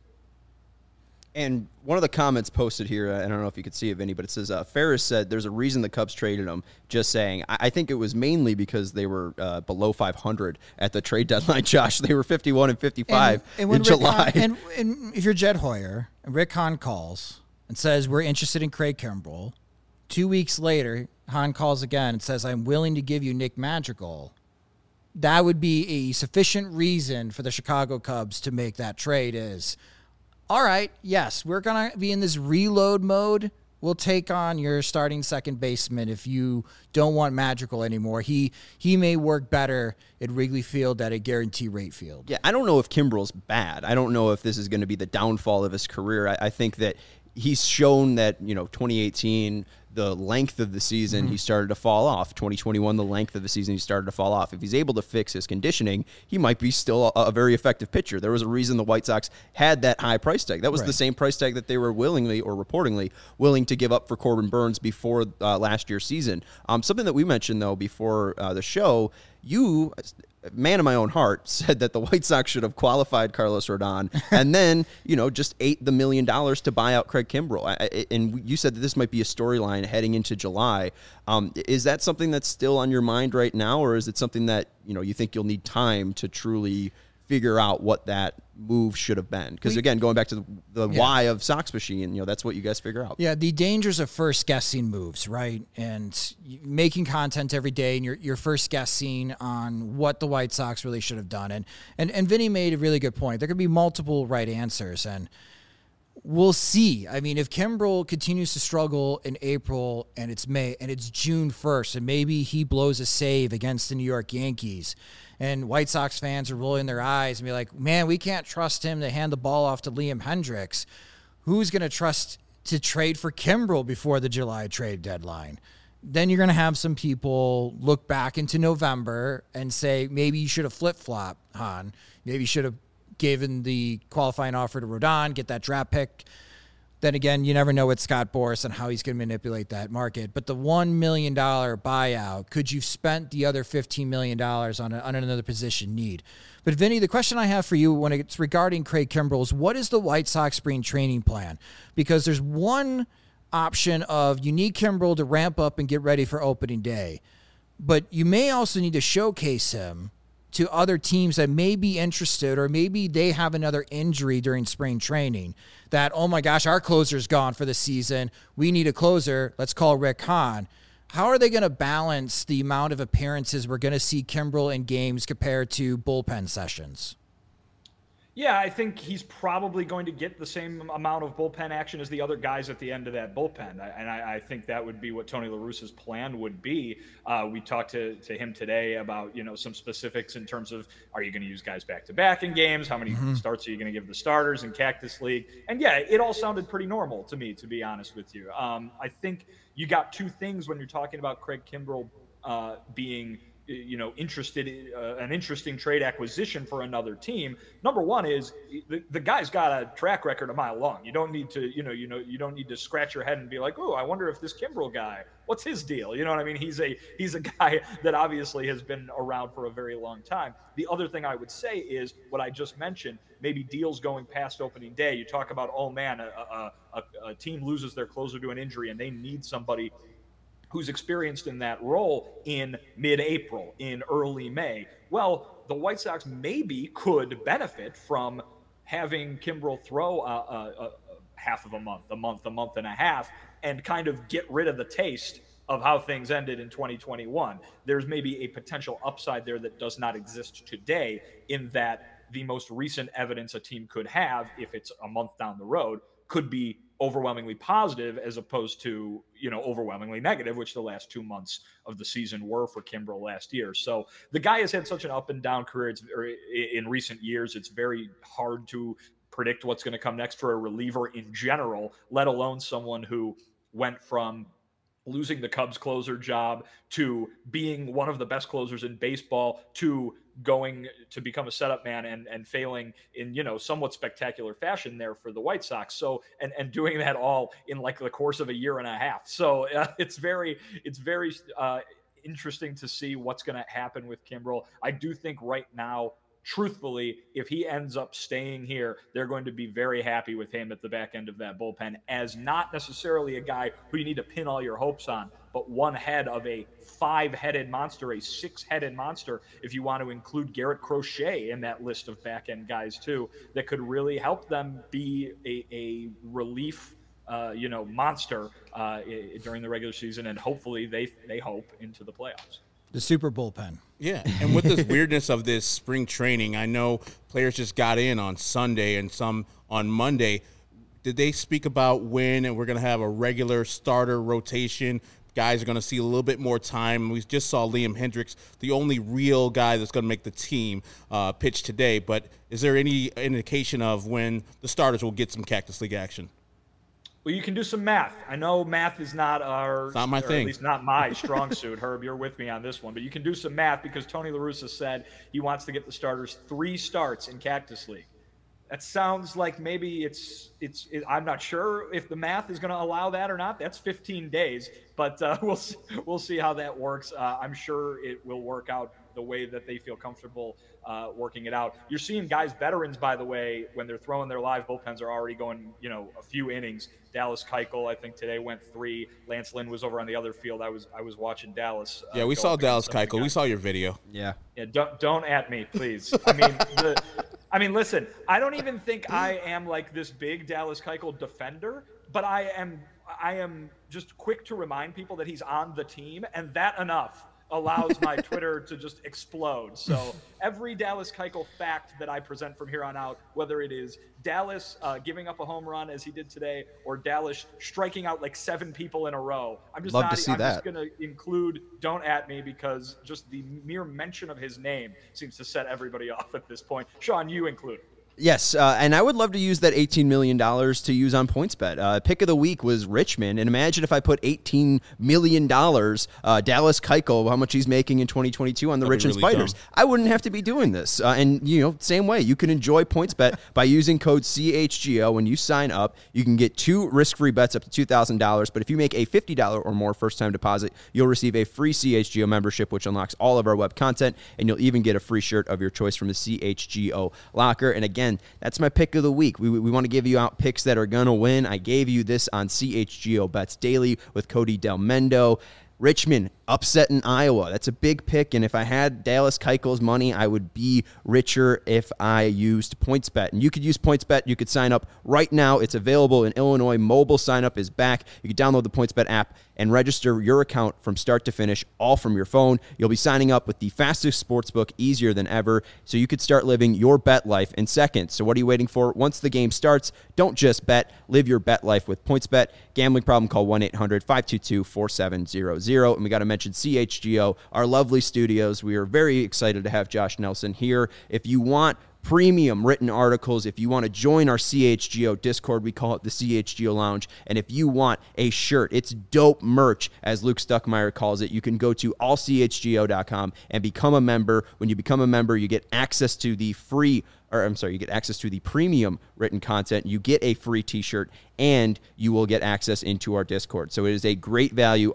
[SPEAKER 1] And one of the comments posted here, I don't know if you could see it, Vinny, but it says, Ferris said there's a reason the Cubs traded him, just saying. I think it was mainly because they were below 500 at the trade deadline, Josh. They were 51 and 55 in July.
[SPEAKER 3] And if you're Jed Hoyer, and Rick Hahn calls and says, we're interested in Craig Kimbrel, 2 weeks later, Hahn calls again and says, I'm willing to give you Nick Madrigal. That would be a sufficient reason for the Chicago Cubs to make that trade is, all right, yes, we're going to be in this reload mode. We'll take on your starting second baseman if you don't want Madrigal anymore. He may work better at Wrigley Field at a guarantee rate field.
[SPEAKER 1] Yeah, I don't know if Kimbrel's bad. I don't know if this is going to be the downfall of his career. I think that he's shown that, 2018, the length of the season, he started to fall off. 2021, the length of the season, he started to fall off. If he's able to fix his conditioning, he might be still a very effective pitcher. There was a reason the White Sox had that high price tag. That was the same price tag that they were willingly or reportedly willing to give up for Corbin Burns before last year's season. Something that we mentioned, though, before the show, you, man of my own heart, said that the White Sox should have qualified Carlos Rodon and then, just ate the $1 million to buy out Craig Kimbrel. And you said that this might be a storyline heading into July. Is that something that's still on your mind right now, or is it something that, you think you'll need time to truly figure out what that move should have been? Because again, going back to the why of Sox Machine, that's what you guys figure out.
[SPEAKER 3] Yeah, the dangers of first guessing moves, right? And making content every day, and you're first guessing on what the White Sox really should have done. And Vinny made a really good point. There could be multiple right answers, and we'll see. I mean, if Kimbrel continues to struggle in April and it's May and it's June 1st, and maybe he blows a save against the New York Yankees, and White Sox fans are rolling their eyes and be like, man, we can't trust him to hand the ball off to Liam Hendriks. Who's going to trust to trade for Kimbrel before the July trade deadline? Then you're going to have some people look back into November and say, maybe you should have flip-flopped, Hahn. Maybe you should have given the qualifying offer to Rodon, get that draft pick. Then again, you never know with Scott Boras and how he's going to manipulate that market. But the $1 million buyout, could you spent the other $15 million on another position need? But Vinny, the question I have for you when it's regarding Craig Kimbrel is, what is the White Sox spring training plan? Because there's one option of you need Kimbrel to ramp up and get ready for opening day. But you may also need to showcase him to other teams that may be interested, or maybe they have another injury during spring training that, oh my gosh, our closer's gone for the season. We need a closer. Let's call Rick Hahn. How are they going to balance the amount of appearances we're going to see Kimbrel in games compared to bullpen sessions?
[SPEAKER 4] Yeah, I think he's probably going to get the same amount of bullpen action as the other guys at the end of that bullpen. I think that would be what Tony La Russa's plan would be. We talked to him today about, some specifics in terms of, are you going to use guys back-to-back in games? How many starts are you going to give the starters in Cactus League? And yeah, it all sounded pretty normal to me, to be honest with you. I think you got two things when you're talking about Craig Kimbrel being interested in an interesting trade acquisition for another team. Number one is the guy's got a track record a mile long. You don't need to, you don't need to scratch your head and be like, oh, I wonder if this Kimbrel guy, what's his deal? You know what I mean? He's a guy that obviously has been around for a very long time. The other thing I would say is what I just mentioned, maybe deals going past opening day. You talk about, oh man, a team loses their closer to an injury and they need somebody who's experienced in that role in mid-April, in early May. Well, the White Sox maybe could benefit from having Kimbrel throw half of a month and a half, and kind of get rid of the taste of how things ended in 2021. There's maybe a potential upside there that does not exist today, in that the most recent evidence a team could have, if it's a month down the road, could be overwhelmingly positive as opposed to, overwhelmingly negative, which the last 2 months of the season were for Kimbrel last year. So the guy has had such an up and down career in recent years. It's very hard to predict what's going to come next for a reliever in general, let alone someone who went from losing the Cubs closer job to being one of the best closers in baseball to going to become a setup man and failing in, somewhat spectacular fashion there for the White Sox. So, and doing that all in like the course of a year and a half. So it's very interesting to see what's going to happen with Kimbrel. I do think right now, truthfully, if he ends up staying here, they're going to be very happy with him at the back end of that bullpen, as not necessarily a guy who you need to pin all your hopes on, but one head of a 5-headed monster, a 6-headed monster, if you want to include Garrett Crochet in that list of back-end guys too, that could really help them be a relief monster during the regular season, and hopefully they hope into the playoffs.
[SPEAKER 3] The super bullpen.
[SPEAKER 2] Yeah, and with this weirdness of this spring training, I know players just got in on Sunday and some on Monday. Did they speak about when and we're going to have a regular starter rotation? Guys are going to see a little bit more time. We just saw Liam Hendricks, the only real guy that's going to make the team, pitch today. But is there any indication of when the starters will get some Cactus League action?
[SPEAKER 4] Well, you can do some math. I know math is not
[SPEAKER 2] my thing.
[SPEAKER 4] At least not my strong suit. Herb, you're with me on this one. But you can do some math because Tony La Russa said he wants to get the starters 3 starts in Cactus League. That sounds like maybe it's I'm not sure if the math is going to allow that or not. That's 15 days, but we'll see how that works. I'm sure it will work out the way that they feel comfortable working it out. You're seeing guys, veterans, by the way, when they're throwing their live bullpens are already going, a few innings. Dallas Keuchel, I think today went 3. Lance Lynn was over on the other field. I was watching Dallas.
[SPEAKER 2] Yeah, we saw Dallas Keuchel. We saw your video.
[SPEAKER 1] Yeah.
[SPEAKER 4] Yeah. Don't at me, please. I mean, listen, I don't even think I am like this big Dallas Keuchel defender, but I am just quick to remind people that he's on the team, and that enough allows my Twitter to just explode. So every Dallas Keuchel fact that I present from here on out, whether it is Dallas giving up a home run as he did today, or Dallas striking out like 7 people in a row, I'm just going to include "don't at me" because just the mere mention of his name seems to set everybody off at this point. Sean, you include.
[SPEAKER 1] Yes, and I would love to use that $18 million to use on PointsBet. Pick of the week was Richmond, and imagine if I put $18 million, Dallas Keuchel, how much he's making in 2022 on the Richmond really Spiders. Dumb. I wouldn't have to be doing this. And, same way, you can enjoy PointsBet by using code CHGO. When you sign up, you can get 2 risk-free bets up to $2,000, but if you make a $50 or more first-time deposit, you'll receive a free CHGO membership, which unlocks all of our web content, and you'll even get a free shirt of your choice from the CHGO locker. And again, that's my pick of the week. We want to give you out picks that are going to win. I gave you this on CHGO Bets Daily with Cody Del Mendo. Richmond upset in Iowa. That's a big pick, and if I had Dallas Keuchel's money, I would be richer if I used PointsBet. And you could use PointsBet. You could sign up right now. It's available in Illinois. Mobile sign-up is back. You can download the PointsBet app and register your account from start to finish, all from your phone. You'll be signing up with the fastest sportsbook, easier than ever, so you could start living your bet life in seconds. So what are you waiting for? Once the game starts, don't just bet. Live your bet life with PointsBet. Gambling problem, call 1-800-522-4700. And we got to mention CHGO, our lovely studios. We are very excited to have Josh Nelson here. If you want premium written articles, if you want to join our CHGO Discord, we call it the CHGO Lounge, and if you want a shirt, it's dope merch, as Luke Stuckmeyer calls it, you can go to allchgo.com and become a member. When you become a member, you get access to the you get access to the premium written content, you get a free t-shirt, and you will get access into our Discord. So it is a great value,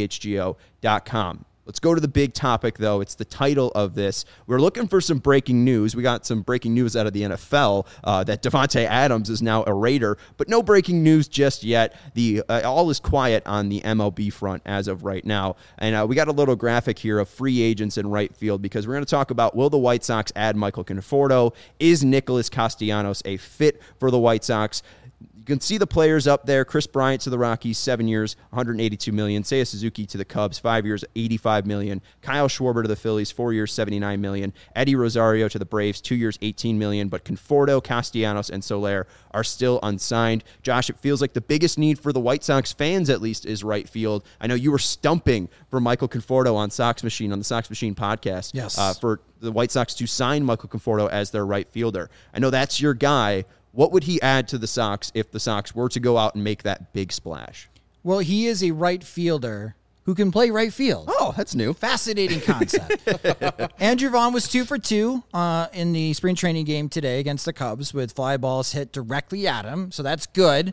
[SPEAKER 1] allchgo.com. Let's go to the big topic, though. It's the title of this. We're looking for some breaking news. We got some breaking news out of the NFL that Davante Adams is now a Raider, but no breaking news just yet. All is quiet on the MLB front as of right now. And we got a little graphic here of free agents in right field, because we're going to talk about, will the White Sox add Michael Conforto? Is Nicholas Castellanos a fit for the White Sox? You can see the players up there. Chris Bryant to the Rockies, 7 years, $182 million. Seiya Suzuki to the Cubs, 5 years, $85 million. Kyle Schwarber to the Phillies, 4 years, $79 million. Eddie Rosario to the Braves, 2 years, $18 million. But Conforto, Castellanos, and Soler are still unsigned. Josh, it feels like the biggest need for the White Sox fans, at least, is right field. I know you were stumping for Michael Conforto on the Sox Machine podcast.
[SPEAKER 3] Yes.
[SPEAKER 1] For the White Sox to sign Michael Conforto as their right fielder. I know that's your guy. What would he add to the Sox if the Sox were to go out and make that big splash?
[SPEAKER 3] Well, he is a right fielder who can play right field.
[SPEAKER 1] Oh, that's new.
[SPEAKER 3] Fascinating concept. Andrew Vaughn was 2 for 2 in the spring training game today against the Cubs, with fly balls hit directly at him. So that's good.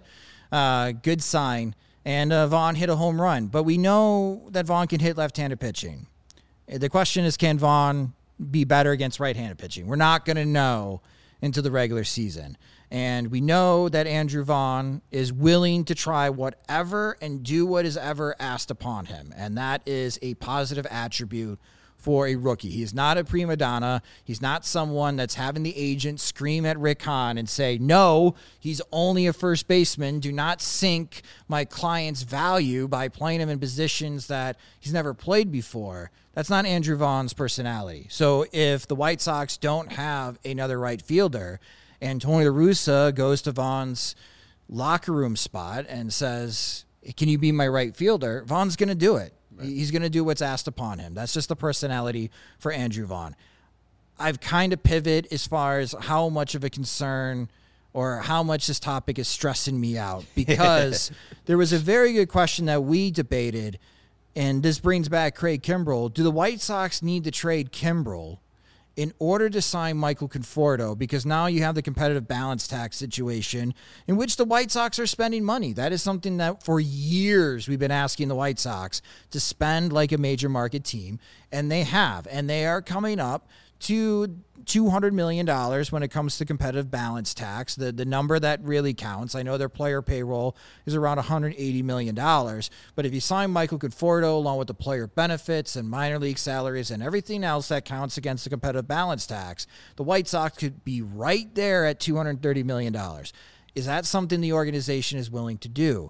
[SPEAKER 3] Good sign. And Vaughn hit a home run. But we know that Vaughn can hit left-handed pitching. The question is, can Vaughn be better against right-handed pitching? We're not going to know until the regular season. And we know that Andrew Vaughn is willing to try whatever and do what is ever asked upon him. And that is a positive attribute for a rookie. He's not a prima donna. He's not someone that's having the agent scream at Rick Hahn and say, no, he's only a first baseman. Do not sink my client's value by playing him in positions that he's never played before. That's not Andrew Vaughn's personality. So if the White Sox don't have another right fielder, and Tony La Russa goes to Vaughn's locker room spot and says, can you be my right fielder? Vaughn's going to do it. Right. He's going to do what's asked upon him. That's just the personality for Andrew Vaughn. I've kind of pivoted as far as how much of a concern or how much this topic is stressing me out, because there was a very good question that we debated, and this brings back Craig Kimbrell. Do the White Sox need to trade Kimbrell in order to sign Michael Conforto? Because now you have the competitive balance tax situation in which the White Sox are spending money. That is something that for years we've been asking the White Sox to spend like a major market team, and they have. And they are coming up to $200 million when it comes to competitive balance tax, the number that really counts. I know their player payroll is around $180 million, but if you sign Michael Conforto along with the player benefits and minor league salaries and everything else that counts against the competitive balance tax, the White Sox could be right there at $230 million. Is that something the organization is willing to do?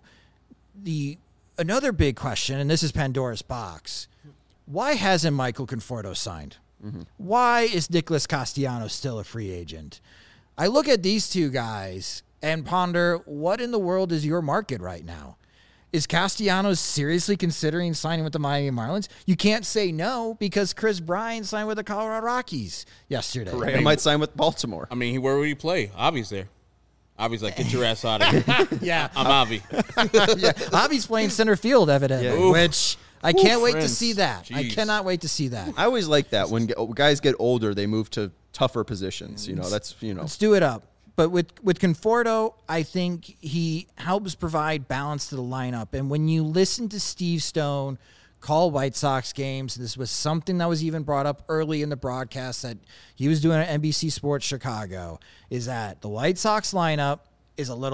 [SPEAKER 3] Another big question, and this is Pandora's box, why hasn't Michael Conforto signed? Mm-hmm. Why is Nicholas Castellanos still a free agent? I look at these two guys and ponder, what in the world is your market right now? Is Castellanos seriously considering signing with the Miami Marlins? You can't say no, because Chris Bryant signed with the Colorado Rockies yesterday.
[SPEAKER 1] Correa might sign with Baltimore.
[SPEAKER 2] I mean, where would he play? Avi's there. Avi's like, get your ass out of here.
[SPEAKER 3] Yeah.
[SPEAKER 2] I'm Avi.
[SPEAKER 3] Yeah. Avi's playing center field, evidently, which I can't wait to see that.
[SPEAKER 2] Jeez.
[SPEAKER 3] I cannot wait to see that.
[SPEAKER 1] I always like that. When guys get older, they move to tougher positions.
[SPEAKER 3] Let's do it up. But with Conforto, I think he helps provide balance to the lineup. And when you listen to Steve Stone call White Sox games, this was something that was even brought up early in the broadcast that he was doing at NBC Sports Chicago, is that the White Sox lineup is a little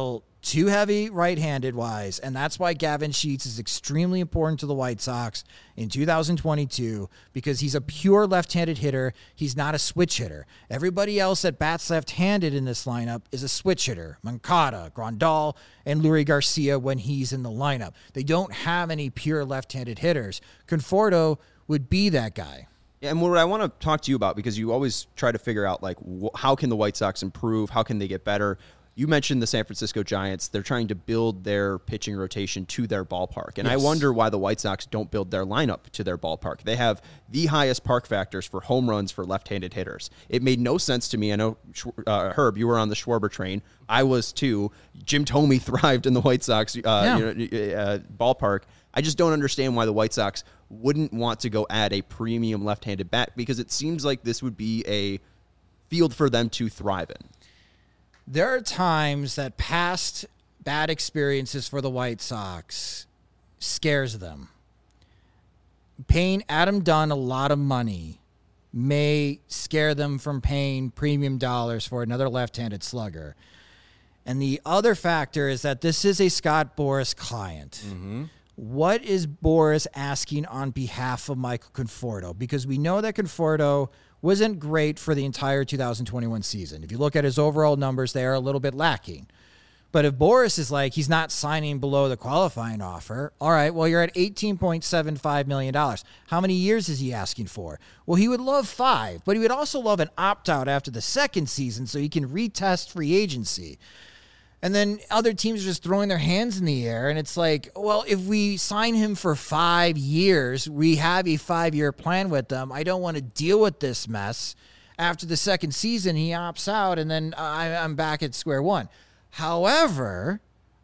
[SPEAKER 3] too heavy right-handed wise, and that's why Gavin Sheets is extremely important to the White Sox in 2022 because he's a pure left-handed hitter. He's not a switch hitter. Everybody else that bats left-handed in this lineup is a switch hitter. Moncada, Grandal, and Lurie Garcia when he's in the lineup. They don't have any pure left-handed hitters. Conforto would be that guy.
[SPEAKER 1] Yeah, and what I want to talk to you about, because you always try to figure out, like, how can the White Sox improve? How can they get better? You mentioned the San Francisco Giants. They're trying to build their pitching rotation to their ballpark. And I wonder why the White Sox don't build their lineup to their ballpark. They have the highest park factors for home runs for left-handed hitters. It made no sense to me. I know, Herb, you were on the Schwarber train. I was too. Jim Thome thrived in the White Sox ballpark. I just don't understand why the White Sox wouldn't want to go add a premium left-handed bat, because it seems like this would be a field for them to thrive in.
[SPEAKER 3] There are times that past bad experiences for the White Sox scares them. Paying Adam Dunn a lot of money may scare them from paying premium dollars for another left-handed slugger. And the other factor is that this is a Scott Boras client. Mm-hmm. What is Boras asking on behalf of Michael Conforto? Because we know that Conforto wasn't great for the entire 2021 season. If you look at his overall numbers, they are a little bit lacking. But if Boras is like, he's not signing below the qualifying offer, all right, well, you're at $18.75 million. How many years is he asking for? Well, he would love 5, but he would also love an opt-out after the second season so he can retest free agency. And then other teams are just throwing their hands in the air. And it's like, well, if we sign him for 5 years, we have a 5-year plan with them. I don't want to deal with this mess. After the second season, he opts out, and then I'm back at square one. However,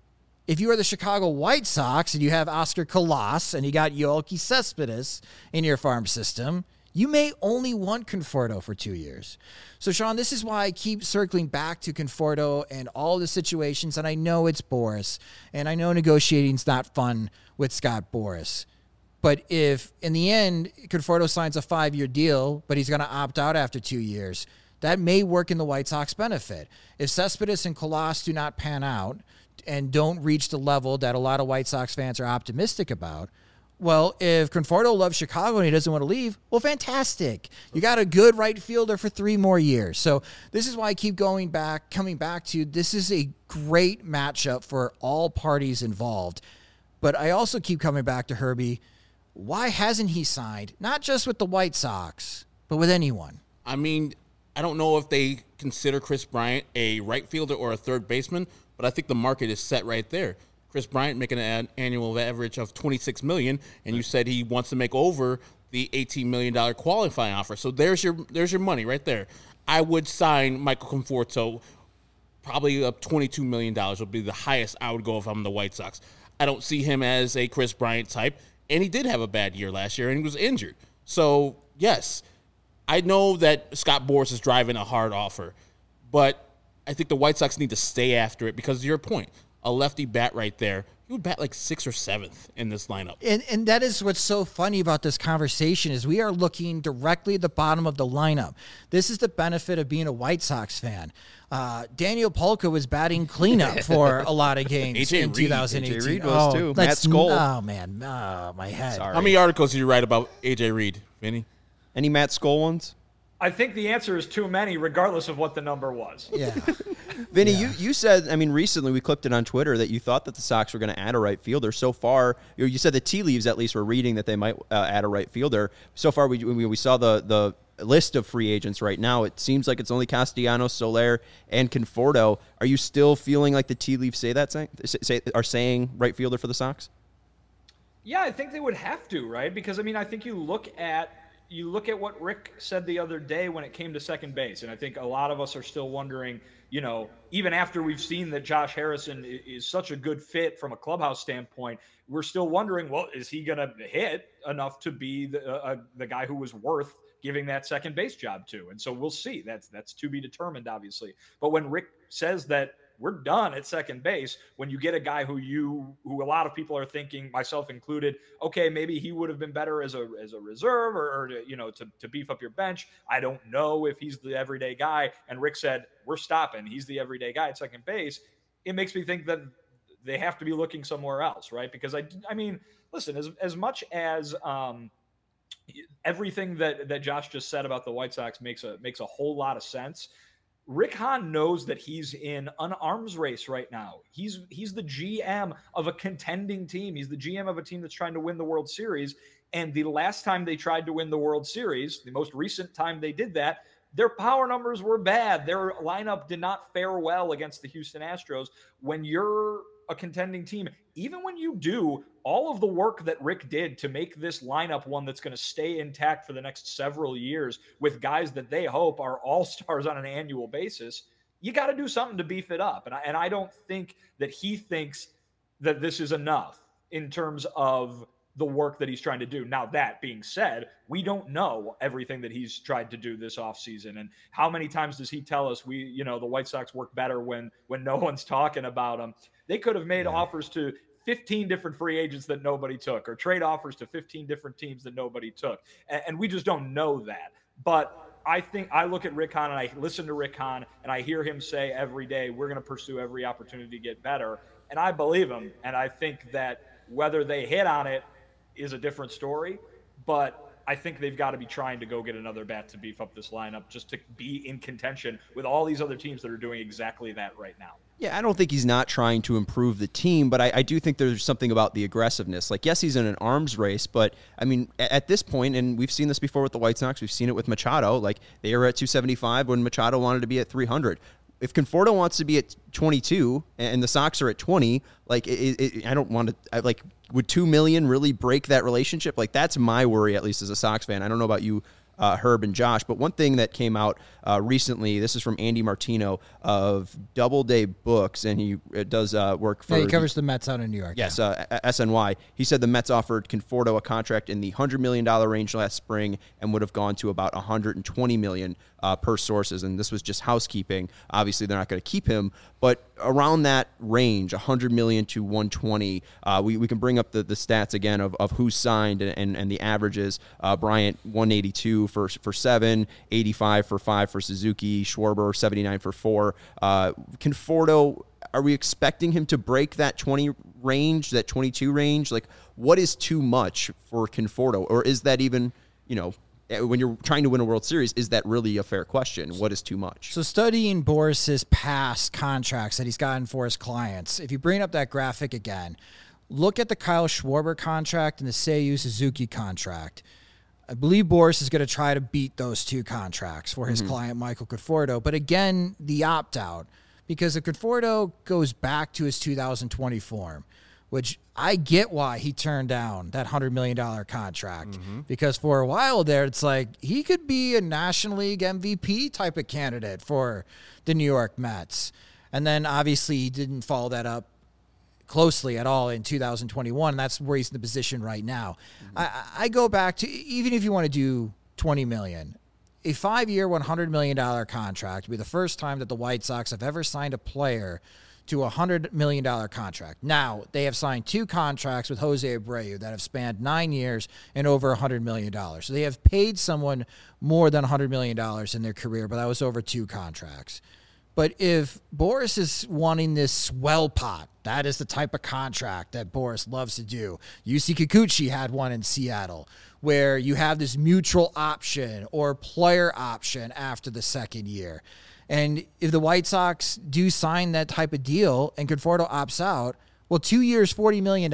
[SPEAKER 3] if you are the Chicago White Sox and you have Oscar Colas and you got Yoelqui Cespedes in your farm system, you may only want Conforto for 2 years. So, Sean, this is why I keep circling back to Conforto and all the situations, and I know it's Boras, and I know negotiating's not fun with Scott Boras. But if, in the end, Conforto signs a 5-year deal, but he's going to opt out after 2 years, that may work in the White Sox benefit. If Cespedes and Colas do not pan out and don't reach the level that a lot of White Sox fans are optimistic about, well, if Conforto loves Chicago and he doesn't want to leave, well, fantastic. You got a good right fielder for 3 more years. So this is why I keep coming back to this is a great matchup for all parties involved. But I also keep coming back to Herbie. Why hasn't he signed, not just with the White Sox, but with anyone?
[SPEAKER 2] I mean, I don't know if they consider Chris Bryant a right fielder or a third baseman, but I think the market is set right there. Chris Bryant making an annual average of $26 million, and you said he wants to make over the $18 million qualifying offer. So there's your money right there. I would sign Michael Conforto. Probably up $22 million would be the highest I would go if I'm the White Sox. I don't see him as a Chris Bryant type, and he did have a bad year last year, and he was injured. So, yes, I know that Scott Boras is driving a hard offer, but I think the White Sox need to stay after it because, to your point, a lefty bat right there, he would bat like 6th or 7th in this lineup.
[SPEAKER 3] And that is what's so funny about this conversation is we are looking directly at the bottom of the lineup. This is the benefit of being a White Sox fan. Daniel Polka was batting cleanup for a lot of games in 2018.
[SPEAKER 1] AJ Reed was too. Matt Skoll.
[SPEAKER 3] Oh, man. My head.
[SPEAKER 1] Sorry.
[SPEAKER 2] How many articles did you write about AJ Reed, Vinny?
[SPEAKER 1] Any Matt Skoll ones?
[SPEAKER 4] I think the answer is too many, regardless of what the number was.
[SPEAKER 3] Yeah.
[SPEAKER 1] Vinny, you said, I mean, recently we clipped it on Twitter that you thought that the Sox were going to add a right fielder. So far, you said the tea leaves at least were reading that they might add a right fielder. So far, we saw the list of free agents right now. It seems like it's only Castellanos, Soler, and Conforto. Are you still feeling like the tea leaves are saying right fielder for the Sox?
[SPEAKER 4] Yeah, I think they would have to, right? Because, I mean, I think you look at what Rick said the other day when it came to second base, and I think a lot of us are still wondering, you know, even after we've seen that Josh Harrison is such a good fit from a clubhouse standpoint, we're still wondering, well, is he going to hit enough to be the guy who was worth giving that second base job to? And so we'll see. That's to be determined, obviously. But when Rick says that we're done at second base, when you get a guy who a lot of people are thinking, myself included, okay, maybe he would have been better as a reserve or to beef up your bench. I don't know if he's the everyday guy. And Rick said, we're stopping. He's the everyday guy at second base. it makes me think that they have to be looking somewhere else, right? Because I mean, listen, as much as everything that Josh just said about the White Sox makes a whole lot of sense. Rick Hahn knows that he's in an arms race right now. He's the GM of a contending team. He's the GM of a team that's trying to win the World Series. And the last time they tried to win the World Series, the most recent time they did that, their power numbers were bad. Their lineup did not fare well against the Houston Astros. When you're a contending team, even when you do all of the work that Rick did to make this lineup one that's going to stay intact for the next several years with guys that they hope are all-stars on an annual basis, you got to do something to beef it up. And I don't think that he thinks that this is enough in terms of the work that he's trying to do. Now, that being said, we don't know everything that he's tried to do this offseason. And how many times does he tell us the White Sox work better when no one's talking about them? They could have made offers to 15 different free agents that nobody took, or trade offers to 15 different teams that nobody took. And we just don't know that. But I think I look at Rick Hahn and I listen to Rick Hahn and I hear him say every day, we're going to pursue every opportunity to get better. And I believe him. And I think that whether they hit on it is a different story, but I think they've got to be trying to go get another bat to beef up this lineup just to be in contention with all these other teams that are doing exactly that right now.
[SPEAKER 1] Yeah, I don't think he's not trying to improve the team, but I do think there's something about the aggressiveness. Like, yes, he's in an arms race, but, I mean, at this point, and we've seen this before with the White Sox, we've seen it with Machado, like, they were at 275 when Machado wanted to be at 300. If Conforto wants to be at 22 and the Sox are at 20, like, I don't want to, like, would $2 million really break that relationship? Like, that's my worry, at least as a Sox fan. I don't know about you, Herb and Josh, but one thing that came out recently, this is from Andy Martino of Doubleday Books, and he does work for...
[SPEAKER 3] Yeah, he covers the Mets out in New York.
[SPEAKER 1] Yes, SNY. He said the Mets offered Conforto a contract in the $100 million range last spring and would have gone to about $120 million per sources, and this was just housekeeping. Obviously, they're not going to keep him, but around that range, $100 million to $120, we can bring up the stats again of who's signed and the averages. Bryant, 182 for 7, 85 for 5 for Suzuki, Schwarber, 79 for 4. Conforto, are we expecting him to break that 20 range, that 22 range? Like, what is too much for Conforto? Or is that even, when you're trying to win a World Series, is that really a fair question? What is too much?
[SPEAKER 3] So studying Boris's past contracts that he's gotten for his clients, if you bring up that graphic again, look at the Kyle Schwarber contract and the Seiyu Suzuki contract. I believe Boris is going to try to beat those two contracts for his client, Michael Conforto. But again, the opt-out, because if Conforto goes back to his 2020 form, which I get why he turned down that $100 million contract, because for a while there, it's like he could be a National League MVP type of candidate for the New York Mets. And then obviously he didn't follow that up closely at all in 2021. And that's where he's in the position right now. I go back to, even if you want to do $20 million, a 5-year, $100 million contract would be the first time that the White Sox have ever signed a player to a $100 million contract. Now, they have signed 2 contracts with Jose Abreu that have spanned 9 years and over $100 million. So they have paid someone more than $100 million in their career, but that was over 2 contracts. But if Boris is wanting this swell pot, that is the type of contract that Boris loves to do. Yusei Kikuchi had one in Seattle, where you have this mutual option or player option after the second year. And if the White Sox do sign that type of deal and Conforto opts out, well, 2 years, $40 million,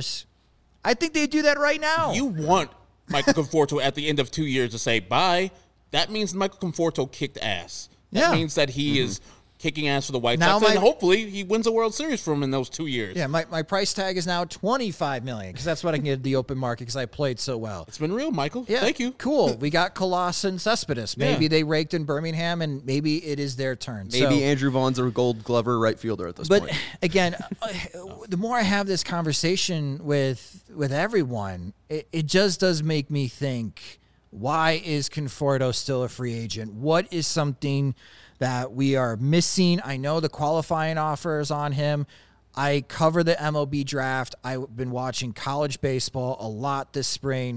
[SPEAKER 3] I think they'd do that right now.
[SPEAKER 2] You want Michael Conforto at the end of 2 years to say bye. That means Michael Conforto kicked ass. That means that he is kicking ass for the White Sox, and hopefully he wins a World Series for him in those 2 years.
[SPEAKER 3] Yeah, my price tag is now $25 million because that's what I can get at the open market because I played so well.
[SPEAKER 2] It's been real, Michael.
[SPEAKER 3] Yeah,
[SPEAKER 2] thank you.
[SPEAKER 3] Cool. We got Colossus and Cespedes. Maybe they raked in Birmingham, and maybe it is their turn.
[SPEAKER 1] Maybe Andrew Vaughn's a Gold Glover right fielder at this point.
[SPEAKER 3] But again, the more I have this conversation with everyone, it just does make me think, why is Conforto still a free agent? What is something that we are missing? I know the qualifying offer is on him. I cover the MLB draft. I've been watching college baseball a lot this spring.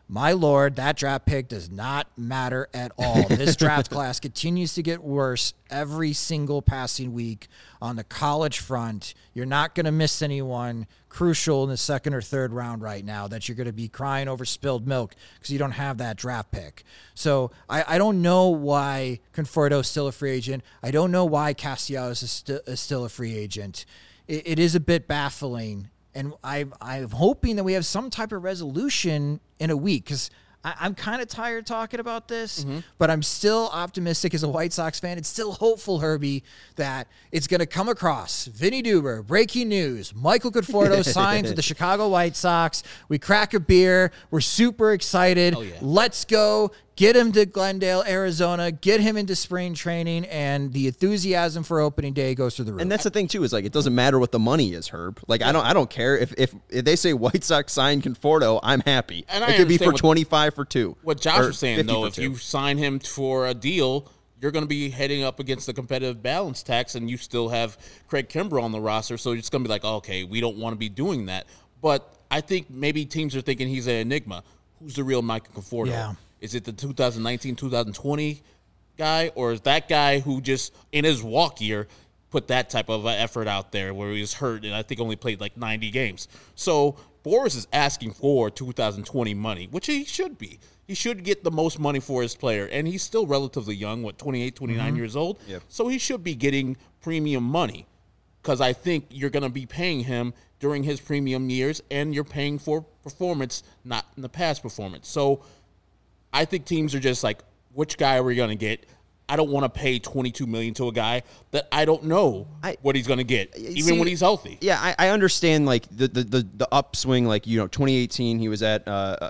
[SPEAKER 3] My Lord, that draft pick does not matter at all. This draft class continues to get worse every single passing week on the college front. You're not going to miss anyone crucial in the second or third round right now that you're going to be crying over spilled milk because you don't have that draft pick. So I don't know why Conforto is still a free agent. I don't know why Castellanos is still a free agent. It is a bit baffling. And I'm hoping that we have some type of resolution in a week because I'm kind of tired talking about this, but I'm still optimistic as a White Sox fan. It's still hopeful, Herbie, that it's going to come across. Vinny Duber, breaking news. Michael Conforto signs with the Chicago White Sox. We crack a beer. We're super excited.
[SPEAKER 2] Oh, yeah.
[SPEAKER 3] Let's go. Get him to Glendale, Arizona. Get him into spring training, and the enthusiasm for opening day goes through the roof.
[SPEAKER 1] And that's the thing too, is like it doesn't matter what the money is, Herb. Like I don't care if they say White Sox sign Conforto, I'm happy.
[SPEAKER 2] And
[SPEAKER 1] it could be for 25 for 2.
[SPEAKER 2] What Josh was saying though, if
[SPEAKER 1] 2.
[SPEAKER 2] you sign him for a deal, you're going to be heading up against the competitive balance tax, and you still have Craig Kimbrell on the roster, so it's going to be like, okay, we don't want to be doing that. But I think maybe teams are thinking he's an enigma. Who's the real Michael Conforto?
[SPEAKER 3] Yeah.
[SPEAKER 2] Is it the 2019, 2020 guy, or is that guy who just, in his walk year, put that type of effort out there where he was hurt and I think only played like 90 games? So Boras is asking for 2020 money, which he should be. He should get the most money for his player, and he's still relatively young, 28, 29 years old?
[SPEAKER 1] Yep.
[SPEAKER 2] So he should be getting premium money because I think you're going to be paying him during his premium years, and you're paying for performance, not in the past performance. So I think teams are just like, which guy are we going to get? I don't want to pay $22 million to a guy that I don't know what he's going to get, even when he's healthy.
[SPEAKER 1] Yeah, I understand like the upswing. Like 2018 he was at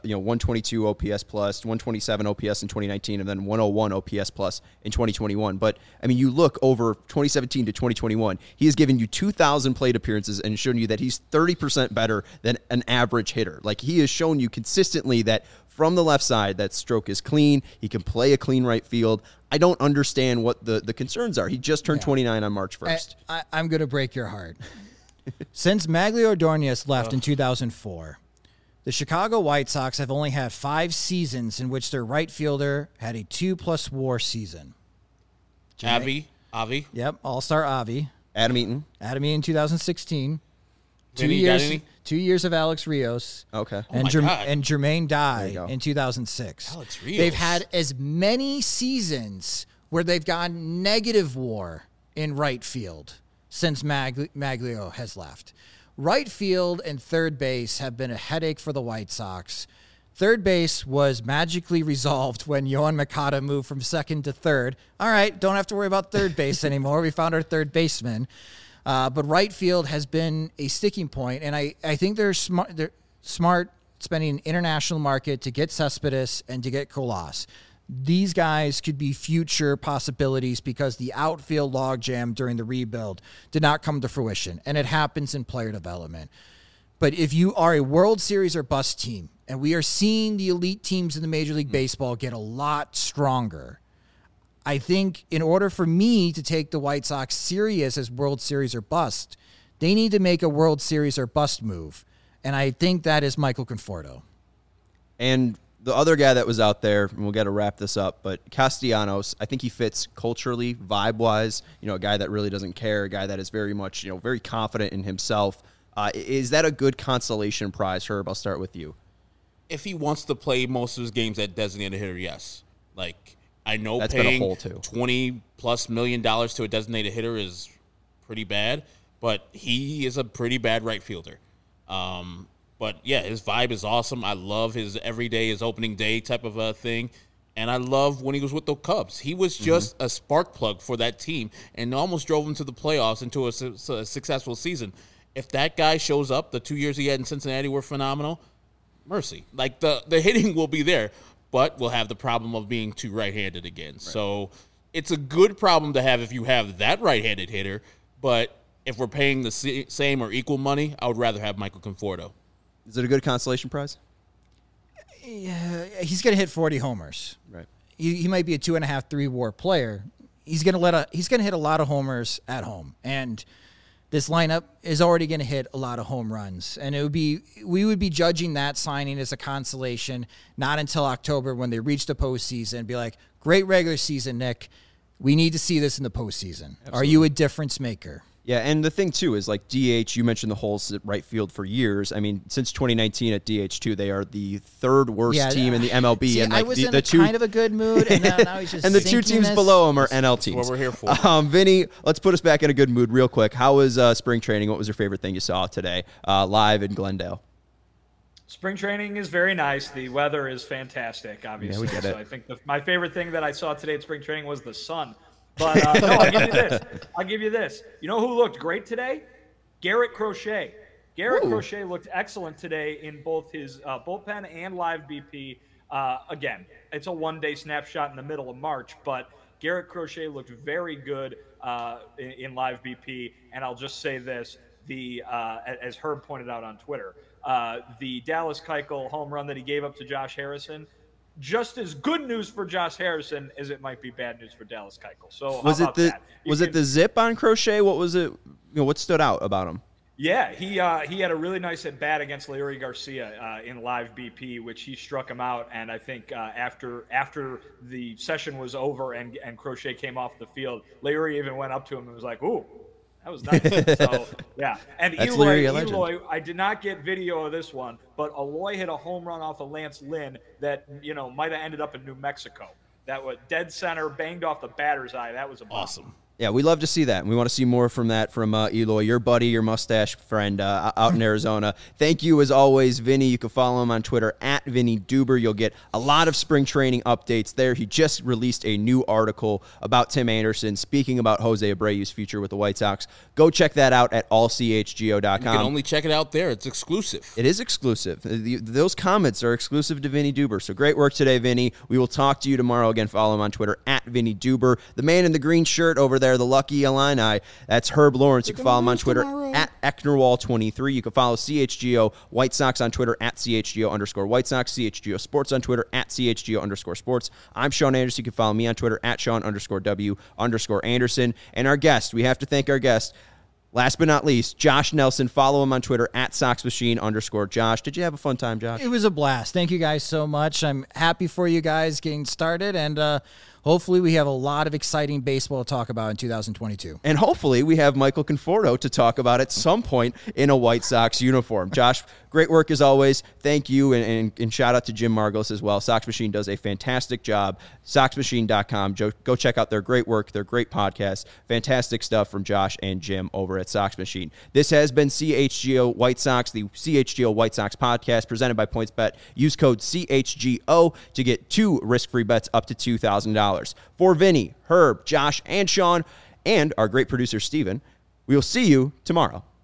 [SPEAKER 1] 122 OPS plus, 127 OPS in 2019, and then 101 OPS plus in 2021. But I mean, you look over 2017 to 2021, he has given you 2,000 plate appearances and shown you that he's 30% better than an average hitter. Like he has shown you consistently that from the left side, that stroke is clean. He can play a clean right field. I don't understand what the concerns are. He just turned 29 on March 1st.
[SPEAKER 3] I'm going to break your heart. Since Maglio Ordonez left in 2004, the Chicago White Sox have only had 5 seasons in which their right fielder had a 2+ WAR season.
[SPEAKER 2] Avi.
[SPEAKER 3] Yep, All-Star Avi.
[SPEAKER 1] Adam Eaton
[SPEAKER 3] in 2016.
[SPEAKER 2] Vinny,
[SPEAKER 3] 2 years of Alex Rios.
[SPEAKER 1] Okay.
[SPEAKER 3] And,
[SPEAKER 2] Oh my God.
[SPEAKER 3] and Jermaine
[SPEAKER 1] There you
[SPEAKER 3] Dye
[SPEAKER 1] go.
[SPEAKER 3] in 2006.
[SPEAKER 2] Alex Rios.
[SPEAKER 3] They've had as many seasons where they've gone negative WAR in right field since Maglio has left. Right field and third base have been a headache for the White Sox. Third base was magically resolved when Yohan Moncada moved from second to third. All right, don't have to worry about third base anymore. We found our third baseman. But right field has been a sticking point, and I think they're smart spending an international market to get Cespedes and to get Colas. These guys could be future possibilities because the outfield logjam during the rebuild did not come to fruition, and it happens in player development. But if you are a World Series or bust team, and we are seeing the elite teams in the Major League Baseball get a lot stronger, I think in order for me to take the White Sox serious as World Series or bust, they need to make a World Series or bust move. And I think that is Michael Conforto.
[SPEAKER 1] And the other guy that was out there, and we'll get to wrap this up, but Castellanos, I think he fits culturally, vibe-wise, a guy that really doesn't care, a guy that is very much, very confident in himself. Is that a good consolation prize, Herb? I'll start with you.
[SPEAKER 2] If he wants to play most of his games at designated hitter, yes. Like, I know
[SPEAKER 1] That's been a
[SPEAKER 2] paying
[SPEAKER 1] hole, too.
[SPEAKER 2] $20+ million to a designated hitter is pretty bad, but he is a pretty bad right fielder. But yeah, his vibe is awesome. I love his everyday, his opening day type of a thing. And I love when he was with the Cubs. He was just a spark plug for that team and almost drove them to the playoffs into a successful season. If that guy shows up, the 2 years he had in Cincinnati were phenomenal. Mercy. Like, the hitting will be there, but we'll have the problem of being too right-handed again. Right. So it's a good problem to have if you have that right-handed hitter, but if we're paying the same or equal money, I would rather have Michael Conforto.
[SPEAKER 1] Is it a good consolation prize?
[SPEAKER 3] Yeah, he's going to hit 40 homers.
[SPEAKER 1] Right.
[SPEAKER 3] He might be a 2.5, 3 WAR player. He's going to hit a lot of homers at home. And this lineup is already going to hit a lot of home runs. And we would be judging that signing as a consolation, not until October when they reach the postseason and be like, great regular season, Nick. We need to see this in the postseason. Absolutely. Are you a difference maker?
[SPEAKER 1] Yeah, and the thing, too, is like DH, you mentioned the holes at right field for years. I mean, since 2019 at DH2, they are the third worst team in the MLB.
[SPEAKER 3] See,
[SPEAKER 1] and like
[SPEAKER 3] I was in kind of a good mood, and now he's just
[SPEAKER 1] and the two teams below him are NL teams.
[SPEAKER 2] That's what we're here for.
[SPEAKER 1] Vinny, let's put us back in a good mood real quick. How was spring training? What was your favorite thing you saw today live in Glendale?
[SPEAKER 4] Spring training is very nice. The weather is fantastic, obviously.
[SPEAKER 1] Yeah, we get it.
[SPEAKER 4] So I think my favorite thing that I saw today at spring training was the sun. But no, I'll give you this. You know who looked great today? Garrett Crochet. Garrett Crochet looked excellent today in both his bullpen and live BP. Again, it's a one-day snapshot in the middle of March, but Garrett Crochet looked very good in live BP. And I'll just say this, as Herb pointed out on Twitter, the Dallas Keuchel home run that he gave up to Josh Harrison, just as good news for Josh Harrison as it might be bad news for Dallas Keuchel. So
[SPEAKER 1] was it the zip on Crochet? What was it? What stood out about him?
[SPEAKER 4] Yeah, he had a really nice at bat against Larry Garcia in live BP, which he struck him out. And I think after the session was over and Crochet came off the field, Larry even went up to him and was like, "Ooh, that was nice." So yeah, and Eloy, I did not get video of this one, but Eloy hit a home run off of Lance Lynn that might have ended up in New Mexico. That was dead center, banged off the batter's eye. That was
[SPEAKER 2] awesome.
[SPEAKER 1] Yeah, we love to see that. And we want to see more from that from Eloy, your buddy, your mustache friend out in Arizona. Thank you, as always, Vinny. You can follow him on Twitter at Vinny Duber. You'll get a lot of spring training updates there. He just released a new article about Tim Anderson, speaking about Jose Abreu's future with the White Sox. Go check that out at allchgo.com.
[SPEAKER 2] You can only check it out there. It's exclusive.
[SPEAKER 1] It is exclusive. Those comments are exclusive to Vinny Duber. So great work today, Vinny. We will talk to you tomorrow. Again, follow him on Twitter at Vinny Duber. The man in the green shirt over there, the Lucky Illini, that's Herb Lawrence. You can follow him on Twitter at Ecknerwall23. You can follow CHGO White Sox on Twitter at CHGO_White Sox, CHGO Sports on Twitter at CHGO_Sports. I'm Sean Anderson. You can follow me on Twitter at Sean_W_Anderson. And our guest, we have to thank our guest, last but not least, Josh Nelson. Follow him on Twitter at SoxMachine_Josh. Did you have a fun time, Josh?
[SPEAKER 3] It was a blast. Thank you guys so much. I'm happy for you guys getting started, and hopefully we have a lot of exciting baseball to talk about in 2022.
[SPEAKER 1] And hopefully we have Michael Conforto to talk about at some point in a White Sox uniform. Josh, great work as always. Thank you, and shout out to Jim Marglis as well. Sox Machine does a fantastic job. SoxMachine.com. Go check out their great work, their great podcast. Fantastic stuff from Josh and Jim over at Sox Machine. This has been CHGO White Sox, the CHGO White Sox podcast presented by PointsBet. Use code CHGO to get 2 risk-free bets up to $2,000. For Vinny, Herb, Josh, and Sean, and our great producer, Steven, we will see you tomorrow.